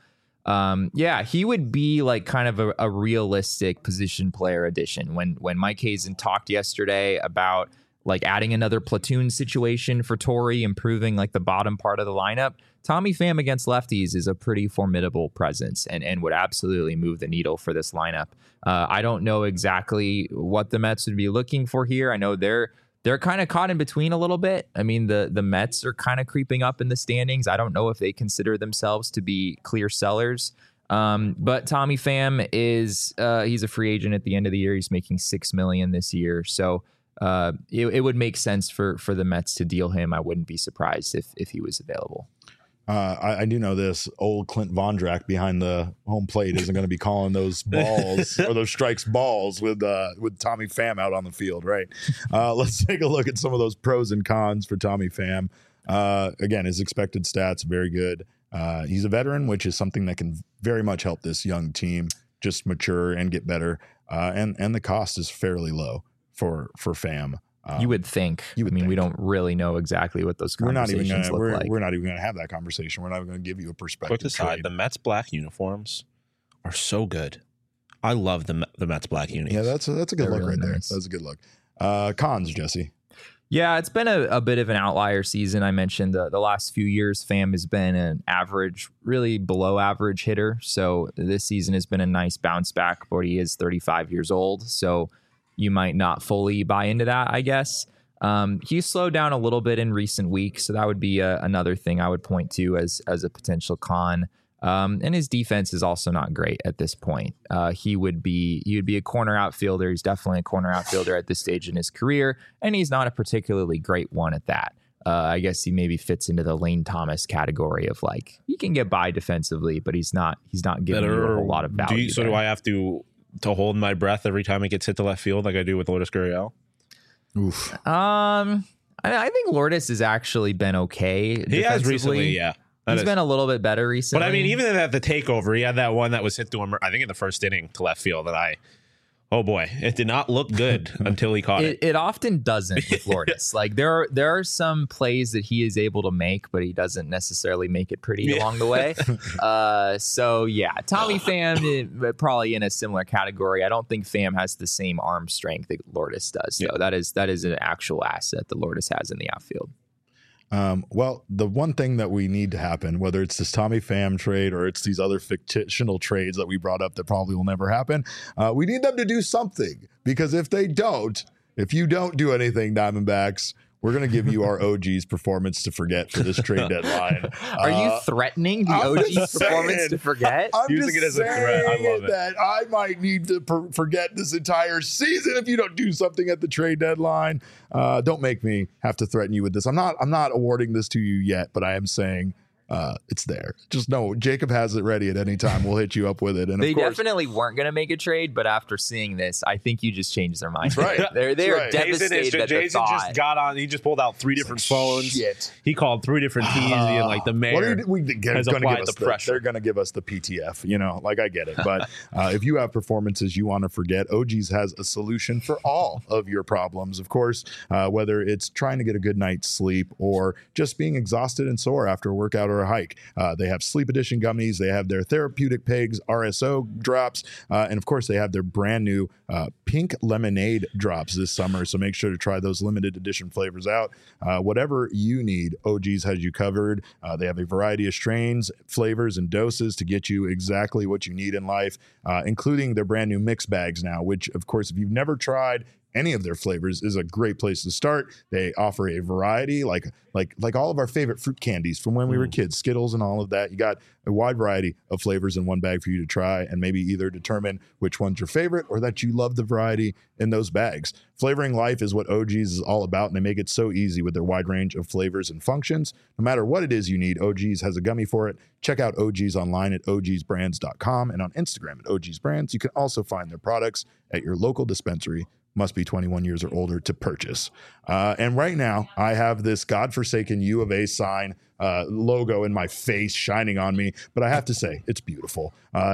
he would be like kind of a realistic position player addition. When Mike Hazen talked yesterday about like adding another platoon situation for Torrey, improving like the bottom part of the lineup, Tommy Pham against lefties is a pretty formidable presence and would absolutely move the needle for this lineup. I don't know exactly what the Mets would be looking for here. I know they're kind of caught in between a little bit. I mean, the Mets are kind of creeping up in the standings. I don't know if they consider themselves to be clear sellers. But Tommy Pham is he's a free agent at the end of the year. He's making $6 million this year. So it would make sense for the Mets to deal him. I wouldn't be surprised if he was available. I do know this. Old Clint Vondrak behind the home plate isn't going to be calling those balls or those strikes balls with Tommy Pham out on the field, right? Let's take a look at some of those pros and cons for Tommy Pham. Again, his expected stats, very good. He's a veteran, which is something that can very much help this young team just mature and get better. And the cost is fairly low for Pham. You would think. We don't really know exactly what those conversations look like. We're not even going to have that conversation. We're not even going to give you a perspective. Quick aside, the Mets black uniforms are so good. I love the Mets black unis. Yeah, that's a good look really right nice. There. That's a good look. Cons, Jesse. Yeah, it's been a bit of an outlier season. I mentioned the last few years, Pham has been an average, really below average hitter. So this season has been a nice bounce back, but he is 35 years old. So you might not fully buy into that, I guess. He's slowed down a little bit in recent weeks, so that would be another thing I would point to as a potential con. And his defense is also not great at this point. He would be a corner outfielder. He's definitely a corner outfielder at this stage in his career, and he's not a particularly great one at that. I guess he maybe fits into the Lane Thomas category of like, he can get by defensively, but he's not giving you a whole lot of value. Do I have to hold my breath every time it gets hit to left field like I do with Lourdes Gurriel? Oof. I think Lourdes has actually been okay. He has recently, yeah. He's been a little bit better recently. But I mean, even at the takeover, he had that one that was hit to him, I think in the first inning to left field that oh boy, it did not look good until he caught it. It often doesn't with Lourdes. Like there are some plays that he is able to make, but he doesn't necessarily make it pretty along the way. So yeah, Tommy Pham probably in a similar category. I don't think Pham has the same arm strength that Lourdes does. So that is an actual asset that Lourdes has in the outfield. Well, the one thing that we need to happen, whether it's this Tommy Pham trade or it's these other fictional trades that we brought up that probably will never happen, we need them to do something, because if you don't do anything, Diamondbacks, we're going to give you our OG's performance to forget for this trade deadline. Are you threatening the OG's performance to forget? I'm using it as a threat. I love it. That I might need to forget this entire season if you don't do something at the trade deadline. Don't make me have to threaten you with this. I'm not awarding this to you yet, but I am saying it's there. Just know Jacob has it ready at any time. We'll hit you up with it. And they definitely weren't going to make a trade, but after seeing this, I think you just changed their mind. That's right. They're right. Devastated at the thought. Just got on. He just pulled out 3 different phones. Shit. He called 3 different teams, and like the mayor has applied the pressure. They're going to give us the PTF. Like I get it. But if you have performances you want to forget, OG's has a solution for all of your problems. Of course, whether it's trying to get a good night's sleep or just being exhausted and sore after a workout or a hike. They have Sleep Edition gummies. They have their Therapeutic Pegs RSO drops. And of course, they have their brand new pink lemonade drops this summer. So make sure to try those limited edition flavors out. Whatever you need, OG's has you covered. They have a variety of strains, flavors, and doses to get you exactly what you need in life, including their brand new mix bags now, which, of course, if you've never tried any of their flavors, is a great place to start. They offer a variety, like all of our favorite fruit candies from when we were kids, Skittles and all of that. You got a wide variety of flavors in one bag for you to try and maybe either determine which one's your favorite or that you love the variety in those bags. Flavoring life is what OG's is all about, and they make it so easy with their wide range of flavors and functions. No matter what it is you need, OG's has a gummy for it. Check out OG's online at ogsbrands.com and on Instagram at ogsbrands. You can also find their products at your local dispensary. Must be 21 years or older to purchase. And right now, I have this godforsaken U of A sign logo in my face shining on me, but I have to say it's beautiful. I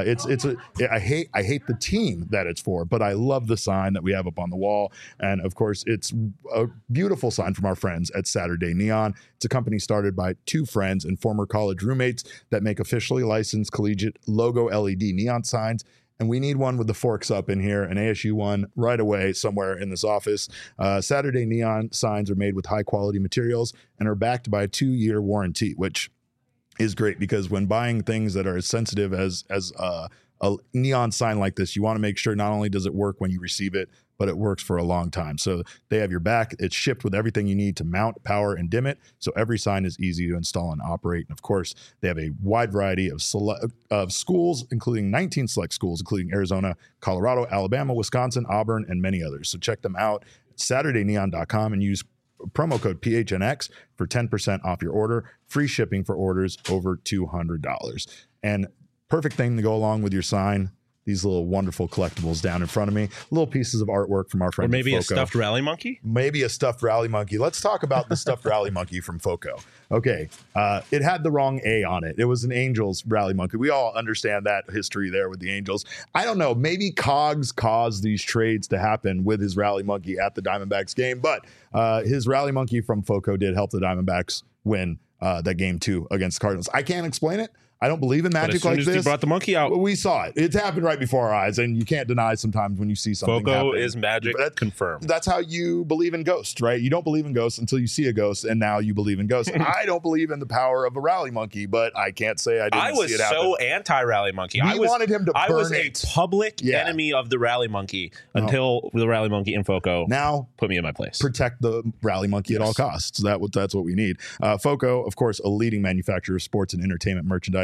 hate the team that it's for, but I love the sign that we have up on the wall. And of course, it's a beautiful sign from our friends at Saturday Neon. It's a company started by 2 friends and former college roommates that make officially licensed collegiate logo LED neon signs. And we need one with the forks up in here, an ASU one right away somewhere in this office. Saturday Neon signs are made with high quality materials and are backed by a 2-year warranty, which is great because when buying things that are as sensitive as a neon sign like this, you want to make sure not only does it work when you receive it, but it works for a long time. So they have your back. It's shipped with everything you need to mount, power, and dim it. So every sign is easy to install and operate. And of course, they have a wide variety of schools, including 19 select schools, including Arizona, Colorado, Alabama, Wisconsin, Auburn, and many others. So check them out at SaturdayNeon.com and use promo code PHNX for 10% off your order. Free shipping for orders over $200. And perfect thing to go along with your sign. These little wonderful collectibles down in front of me. Little pieces of artwork from our friends. Or maybe at a stuffed rally monkey? Maybe a stuffed rally monkey. Let's talk about the stuffed rally monkey from Foco. Okay. It had the wrong A on it. It was an Angels rally monkey. We all understand that history there with the Angels. I don't know. Maybe Cogs caused these trades to happen with his rally monkey at the Diamondbacks game. But his rally monkey from Foco did help the Diamondbacks win that game 2 against the Cardinals. I can't explain it. I don't believe in magic like this. You brought the monkey out. We saw it. It's happened right before our eyes, and you can't deny sometimes when you see something Foco is magic confirmed. That's how you believe in ghosts, right? You don't believe in ghosts until you see a ghost, and now you believe in ghosts. I don't believe in the power of a rally monkey, but I can't say I didn't see it happen. I was so anti-rally monkey. I wanted him to burn it. I was a public enemy of the rally monkey until the rally monkey and Foco now put me in my place. Protect the rally monkey at all costs. That's what we need. Foco, of course, a leading manufacturer of sports and entertainment merchandise.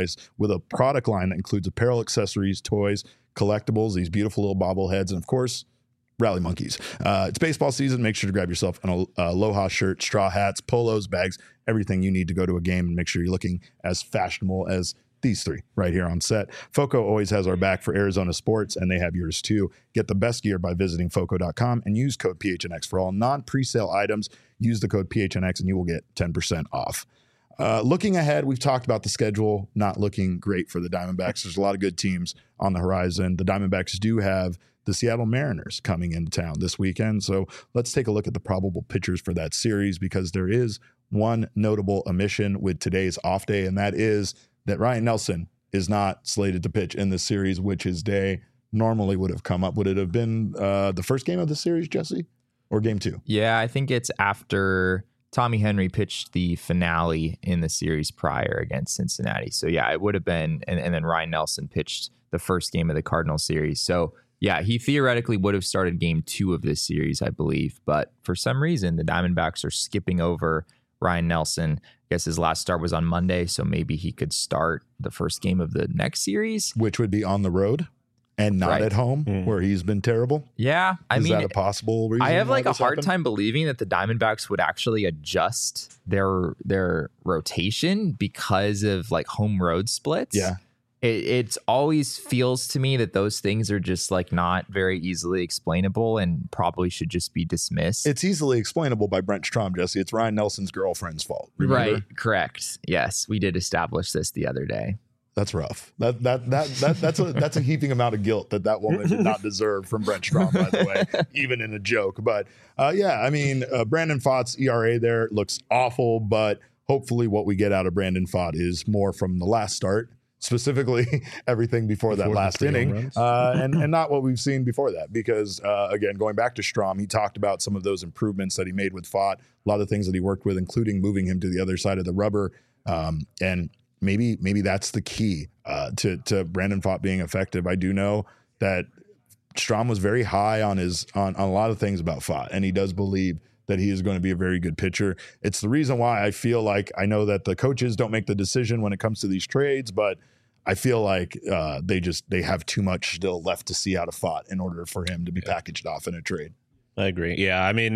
price with a product line that includes apparel, accessories, toys, collectibles, these beautiful little bobbleheads, and of course, rally monkeys. It's baseball season. Make sure to grab yourself an Aloha shirt, straw hats, polos, bags, everything you need to go to a game, and make sure you're looking as fashionable as these three right here on set. FOCO always has our back for Arizona sports, and they have yours too. Get the best gear by visiting FOCO.com and use code PHNX for all non-presale items. Use the code PHNX and you will get 10% off. Looking ahead, we've talked about the schedule not looking great for the Diamondbacks. There's a lot of good teams on the horizon. The Diamondbacks do have the Seattle Mariners coming into town this weekend. So let's take a look at the probable pitchers for that series, because there is one notable omission with today's off day, and that is that Ryan Nelson is not slated to pitch in this series, which his day normally would have come up. Would it have been the first game of the series, Jesse, or game 2? Yeah, I think it's after Tommy Henry pitched the finale in the series prior against Cincinnati. So yeah, it would have been, and then Ryan Nelson pitched the first game of the Cardinals series. So yeah, he theoretically would have started game 2 of this series, I believe. But for some reason, the Diamondbacks are skipping over Ryan Nelson. I guess his last start was on Monday, so maybe he could start the first game of the next series, which would be on the road and not at home, where he's been terrible. Yeah, I mean, is that a possible reason? I have like a hard time believing that the Diamondbacks would actually adjust their rotation because of like home road splits. Yeah. It always feels to me that those things are just like not very easily explainable and probably should just be dismissed. It's easily explainable by Brent Strom, Jesse. It's Ryan Nelson's girlfriend's fault. Remember? Right. Correct. Yes, we did establish this the other day. That's rough. That's a heaping amount of guilt that woman did not deserve from Brent Strom, by the way, even in a joke. But yeah, I mean, Brandon Pfaadt's ERA there looks awful, but hopefully what we get out of Brandon Pfaadt is more from the last start. Specifically, everything before that last inning, and not what we've seen before that. Because again, going back to Strom, he talked about some of those improvements that he made with Pfaadt, a lot of things that he worked with, including moving him to the other side of the rubber, and maybe that's the key to Brandon Pfaadt being effective. I do know that Strom was very high on a lot of things about Pfaadt, and he does believe that he is going to be a very good pitcher. It's the reason why I feel like, I know that the coaches don't make the decision when it comes to these trades, but I feel like they have too much still left to see out of Pfaadt in order for him to be packaged off in a trade. I agree. Yeah, I mean,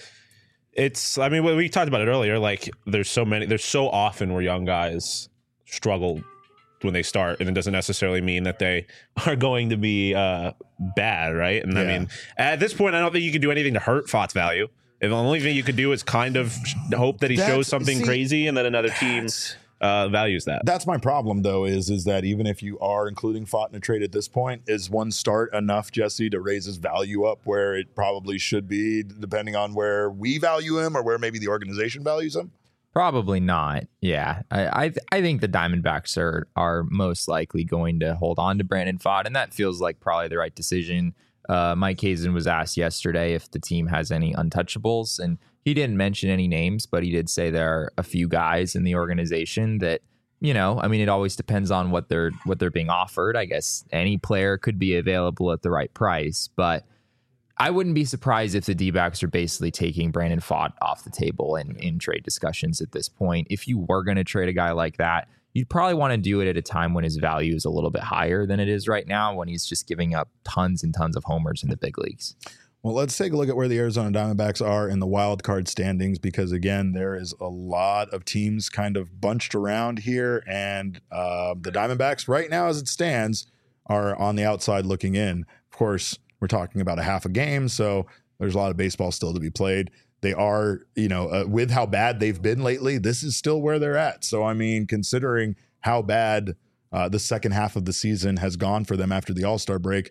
I mean, we talked about it earlier. Like, there's so often where young guys struggle when they start, and it doesn't necessarily mean that they are going to be bad, right? And I mean, at this point, I don't think you can do anything to hurt Pfaadt's value. If the only thing you could do is kind of hope that he shows something crazy and that another team values that. That's my problem, though, is that even if you are including Pfaadt in a trade at this point, is one start enough, Jesse, to raise his value up where it probably should be, depending on where we value him or where maybe the organization values him? Probably not. Yeah, I think the Diamondbacks are most likely going to hold on to Brandon Pfaadt, and that feels like probably the right decision. Mike Hazen was asked yesterday if the team has any untouchables, and he didn't mention any names, but he did say there are a few guys in the organization that, you know, I mean, it always depends on what they're being offered. I guess any player could be available at the right price, but I wouldn't be surprised if the D-backs are basically taking Brandon Pfaadt off the table in trade discussions at this point. If you were going to trade a guy like that, you'd probably want to do it at a time when his value is a little bit higher than it is right now, when he's just giving up tons and tons of homers in the big leagues. Well, let's take a look at where the Arizona Diamondbacks are in the wild card standings, because, again, there is a lot of teams kind of bunched around here, and the Diamondbacks right now, as it stands, are on the outside looking in. Of course, we're talking about a half a game, so there's a lot of baseball still to be played. They are, with how bad they've been lately, this is still where they're at. So, I mean, considering how bad the second half of the season has gone for them after the All-Star break,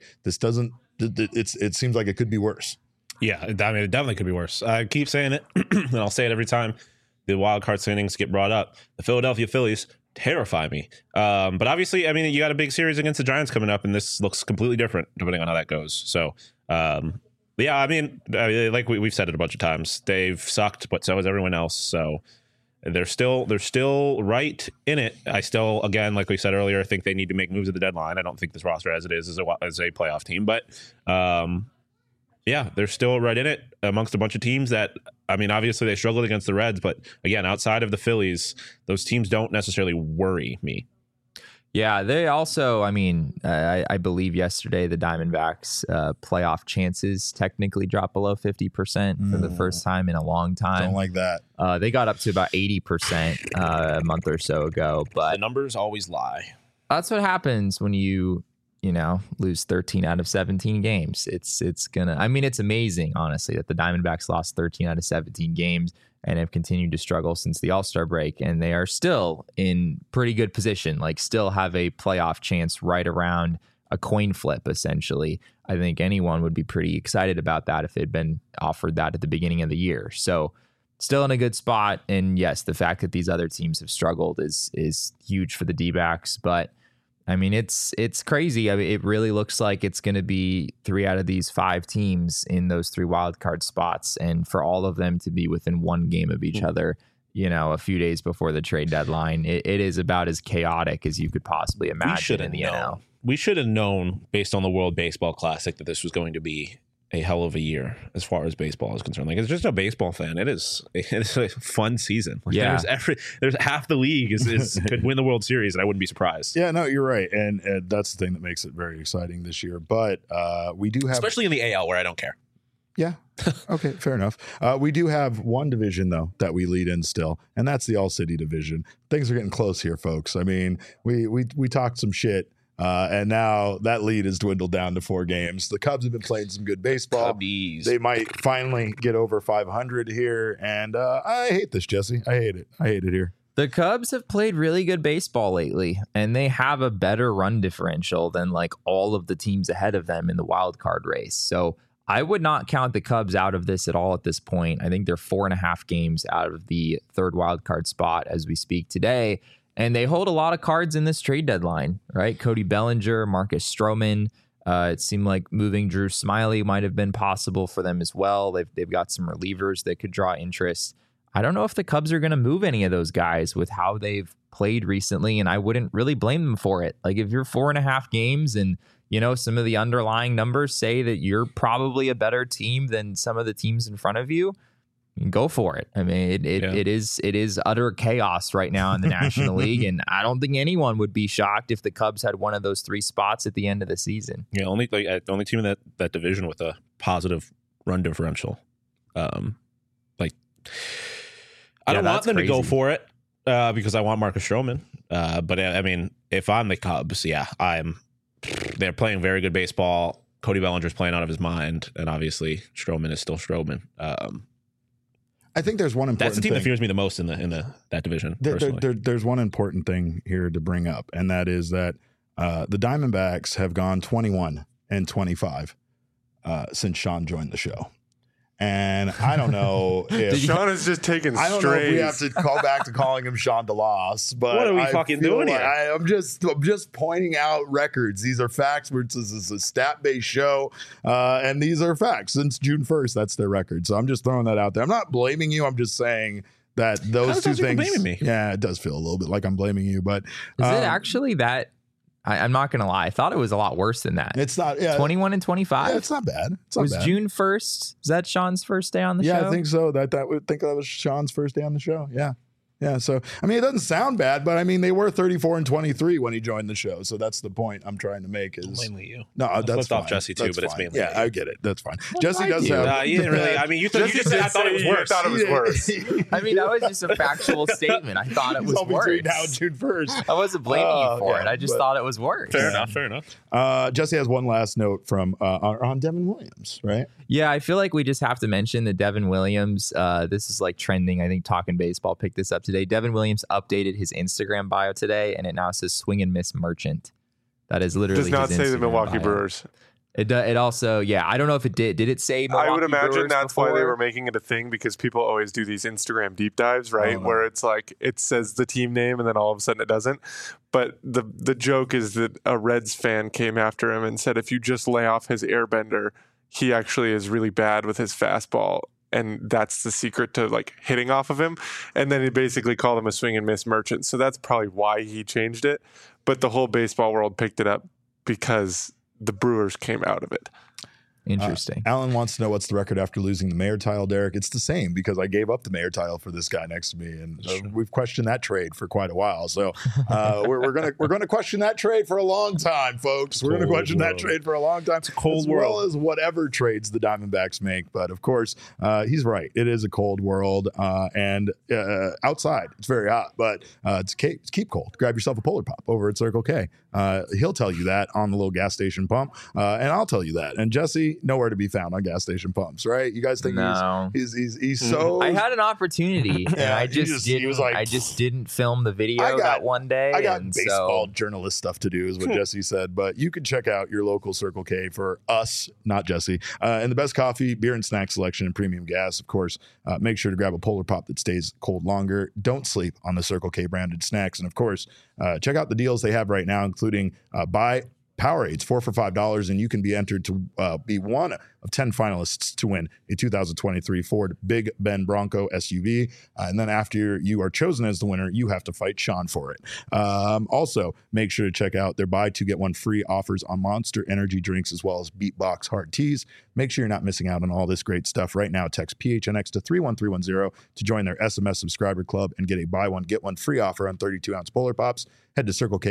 it seems like it could be worse. Yeah, I mean, it definitely could be worse. I keep saying it, and I'll say it every time the wild card standings get brought up. The Philadelphia Phillies terrify me. But obviously, I mean, you got a big series against the Giants coming up, and this looks completely different depending on how that goes. So, yeah, I mean, like we've said it a bunch of times, they've sucked, but so has everyone else. So they're still right in it. I still, again, like we said earlier, I think they need to make moves at the deadline. I don't think this roster as it is a playoff team, but yeah, they're still right in it amongst a bunch of teams that, I mean, obviously they struggled against the Reds, but again, outside of the Phillies, those teams don't necessarily worry me. Yeah, they also, I mean, I believe yesterday the Diamondbacks playoff chances technically dropped below 50% for the first time in a long time. Don't like that. They got up to about 80% a month or so ago, but the numbers always lie. That's what happens when you lose 13 out of 17 games. It's amazing, honestly, that the Diamondbacks lost 13 out of 17 games and have continued to struggle since the All-Star break. And they are still in pretty good position, like still have a playoff chance right around a coin flip, essentially. I think anyone would be pretty excited about that if they'd been offered that at the beginning of the year. So still in a good spot. And yes, the fact that these other teams have struggled is huge for the D-backs. But I mean, it's crazy. I mean, it really looks like it's going to be 3 out of these 5 teams in those 3 wildcard spots. And for all of them to be within 1 game of each other, a few days before the trade deadline, it is about as chaotic as you could possibly imagine in the NL. We should have known, based on the World Baseball Classic, that this was going to be a hell of a year as far as baseball is concerned. Like, it's just a baseball fan. It's a fun season. Yeah. There's half the league is could win the World Series, and I wouldn't be surprised. Yeah, no, you're right, and that's the thing that makes it very exciting this year. But we do have, especially in the AL, where I don't care. Yeah. Okay, fair enough. We do have one division, though, that we lead in still, and that's the All-City division. Things are getting close here, folks. I mean, we talked some shit. And now that lead has dwindled down to 4 games. The Cubs have been playing some good baseball. Cubbies. They might finally get over 500 here. And I hate this, Jesse. I hate it. I hate it here. The Cubs have played really good baseball lately, and they have a better run differential than like all of the teams ahead of them in the wild card race. So I would not count the Cubs out of this at all at this point. I think they're 4.5 games out of the 3rd wild card spot as we speak today. And they hold a lot of cards in this trade deadline, right? Cody Bellinger, Marcus Stroman. It seemed like moving Drew Smyly might have been possible for them as well. They've got some relievers that could draw interest. I don't know if the Cubs are going to move any of those guys with how they've played recently, and I wouldn't really blame them for it. Like, if you're 4.5 games and, some of the underlying numbers say that you're probably a better team than some of the teams in front of you, go for it. I mean, it is utter chaos right now in the National League, and I don't think anyone would be shocked if the Cubs had one of those 3 spots at the end of the season. Yeah, only team in that division with a positive run differential. I don't want them to go for it because I want Marcus Stroman. But I mean, if I'm the Cubs, they're playing very good baseball. Cody Bellinger's playing out of his mind, and obviously Stroman is still Stroman. I think there's one important thing. That's the team that fears me the most in that division. There's one important thing here to bring up, and that is that the Diamondbacks have gone 21-25 since Sean joined the show. And I don't know if Sean is just taking I don't know if we have to call back to calling him Sean DeLoss, but what are we fucking doing here? I'm just pointing out records. These are facts. This is a stat-based show, and these are facts. Since June 1st, that's their record. So I'm just throwing that out there. I'm not blaming you. I'm just saying that those two things. Blaming me? Yeah, it does feel a little bit like I'm blaming you, but is it actually that? I'm not going to lie. I thought it was a lot worse than that. It's not. Yeah, 21-25. Yeah, it's not bad. It's not was bad. June 1st? Is that Sean's first day on the show? Yeah, I think so. That was Sean's first day on the show. Yeah. Yeah, so I mean, it doesn't sound bad, but I mean, they were 34-23 when he joined the show. So that's the point I'm trying to make. Is mainly you? No, that's fine. Off Jesse too, that's but fine. it's mainly yeah, you. I get it. That's fine. Jesse does have. You didn't really. I mean, you just said I thought it was worse. Thought it was worse. I mean, that was just a factual statement. I thought it was worse. Between now and June 1st. I wasn't blaming you for it. I just thought it was worse. Fair enough. Jesse has one last note from on Devin Williams, right? Yeah, I feel like we just have to mention that Devin Williams. This is like trending. I think Talking Baseball picked this up today. Devin Williams updated his Instagram bio today, and it now says "Swing and Miss Merchant." That is literally does not his say Instagram the Milwaukee bio. Brewers. It also, yeah, I don't know if it did. Did it say Milwaukee I would imagine Brewers that's before? why they were making it a thing, because people always do these Instagram deep dives, right? Where it's like it says the team name and then all of a sudden it doesn't. But the joke is that a Reds fan came after him and said if you just lay off his airbender, he actually is really bad with his fastball. And that's the secret to like hitting off of him. And then he basically called him a swing and miss merchant. So that's probably why he changed it. But the whole baseball world picked it up because the Brewers came out of it. Interesting. Alan wants to know what's the record after losing the mayor title, Derek. It's the same because I gave up the mayor title for this guy next to me, and we've questioned that trade for quite a while. So we're gonna question that trade for a long time, folks. We're gonna question that trade for a long time. It's a cold as world. well as whatever trades the Diamondbacks make. But of course, he's right. It is a cold world, and outside it's very hot, but it's keep cold. Grab yourself a Polar Pop over at Circle K. He'll tell you that on the little gas station pump, and I'll tell you that. And Jesse, nowhere to be found on gas station pumps, right? You guys think he's so? I had an opportunity, and I just didn't film the video that one day. I got baseball journalist stuff to do, is what Jesse said. But you can check out your local Circle K for us, not Jesse, and the best coffee, beer, and snack selection, and premium gas. Of course, make sure to grab a Polar Pop that stays cold longer. Don't sleep on the Circle K branded snacks, and of course, check out the deals they have right now, including buy Powerades, 4 for $5, and you can be entered to be one of 10 finalists to win a 2023 Ford Big Ben Bronco SUV. And then after you are chosen as the winner, you have to fight Sean for it. Also, make sure to check out their buy 2 get 1 free offers on Monster energy drinks as well as Beatbox hard teas. Make sure you're not missing out on all this great stuff right now. Text PHNX to 31310 to join their SMS subscriber club and get a buy 1 get 1 free offer on 32-ounce Polar Pops. Head to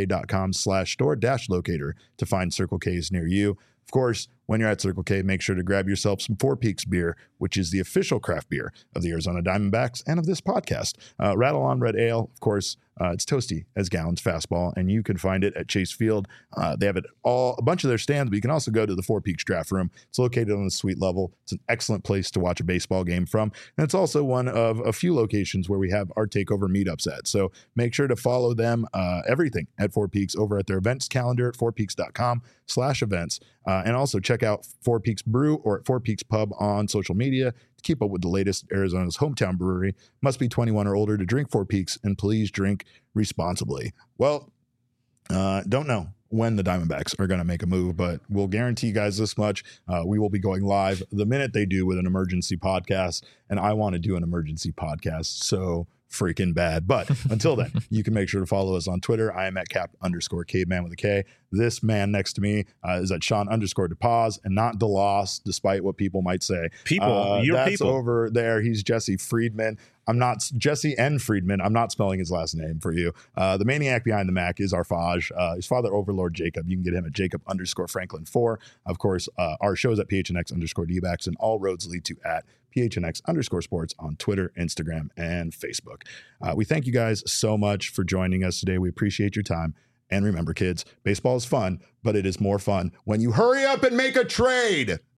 circlek.com/store-locator to find Circle K's near you. Of course, when you're at Circle K, make sure to grab yourself some Four Peaks beer, which is the official craft beer of the Arizona Diamondbacks and of this podcast. Rattle On Red Ale, of course, it's toasty as Gallon's fastball, and you can find it at Chase Field. They have it a bunch of their stands, but you can also go to the Four Peaks draft room. It's located on the suite level. It's an excellent place to watch a baseball game from, and it's also one of a few locations where we have our takeover meetups at. So make sure to follow them, everything at Four Peaks over at their events calendar at fourpeaks.com/events. And also check out Four Peaks Brew or at Four Peaks Pub on social media to keep up with the latest. Arizona's hometown brewery. Must be 21 or older to drink Four Peaks, and please drink responsibly. Well, don't know when the Diamondbacks are going to make a move, but we'll guarantee you guys this much. We will be going live the minute they do with an emergency podcast, and I want to do an emergency podcast so freaking bad. But until then, you can make sure to follow us on Twitter. I am at cap_caveman with a K. This man next to me is at Sean_DePaz and not DeLoss, despite what people might say. That's over there. He's Jesse Friedman. I'm not Jesse N. Friedman. I'm not spelling his last name for you. The maniac behind the Mac is Arfaj. His father, Overlord Jacob. You can get him at Jacob_Franklin4. Of course, our show is at PHNX_DBacks, and all roads lead to at PHNX_sports on Twitter, Instagram, and Facebook. We thank you guys so much for joining us today. We appreciate your time. And remember, kids, baseball is fun, but it is more fun when you hurry up and make a trade.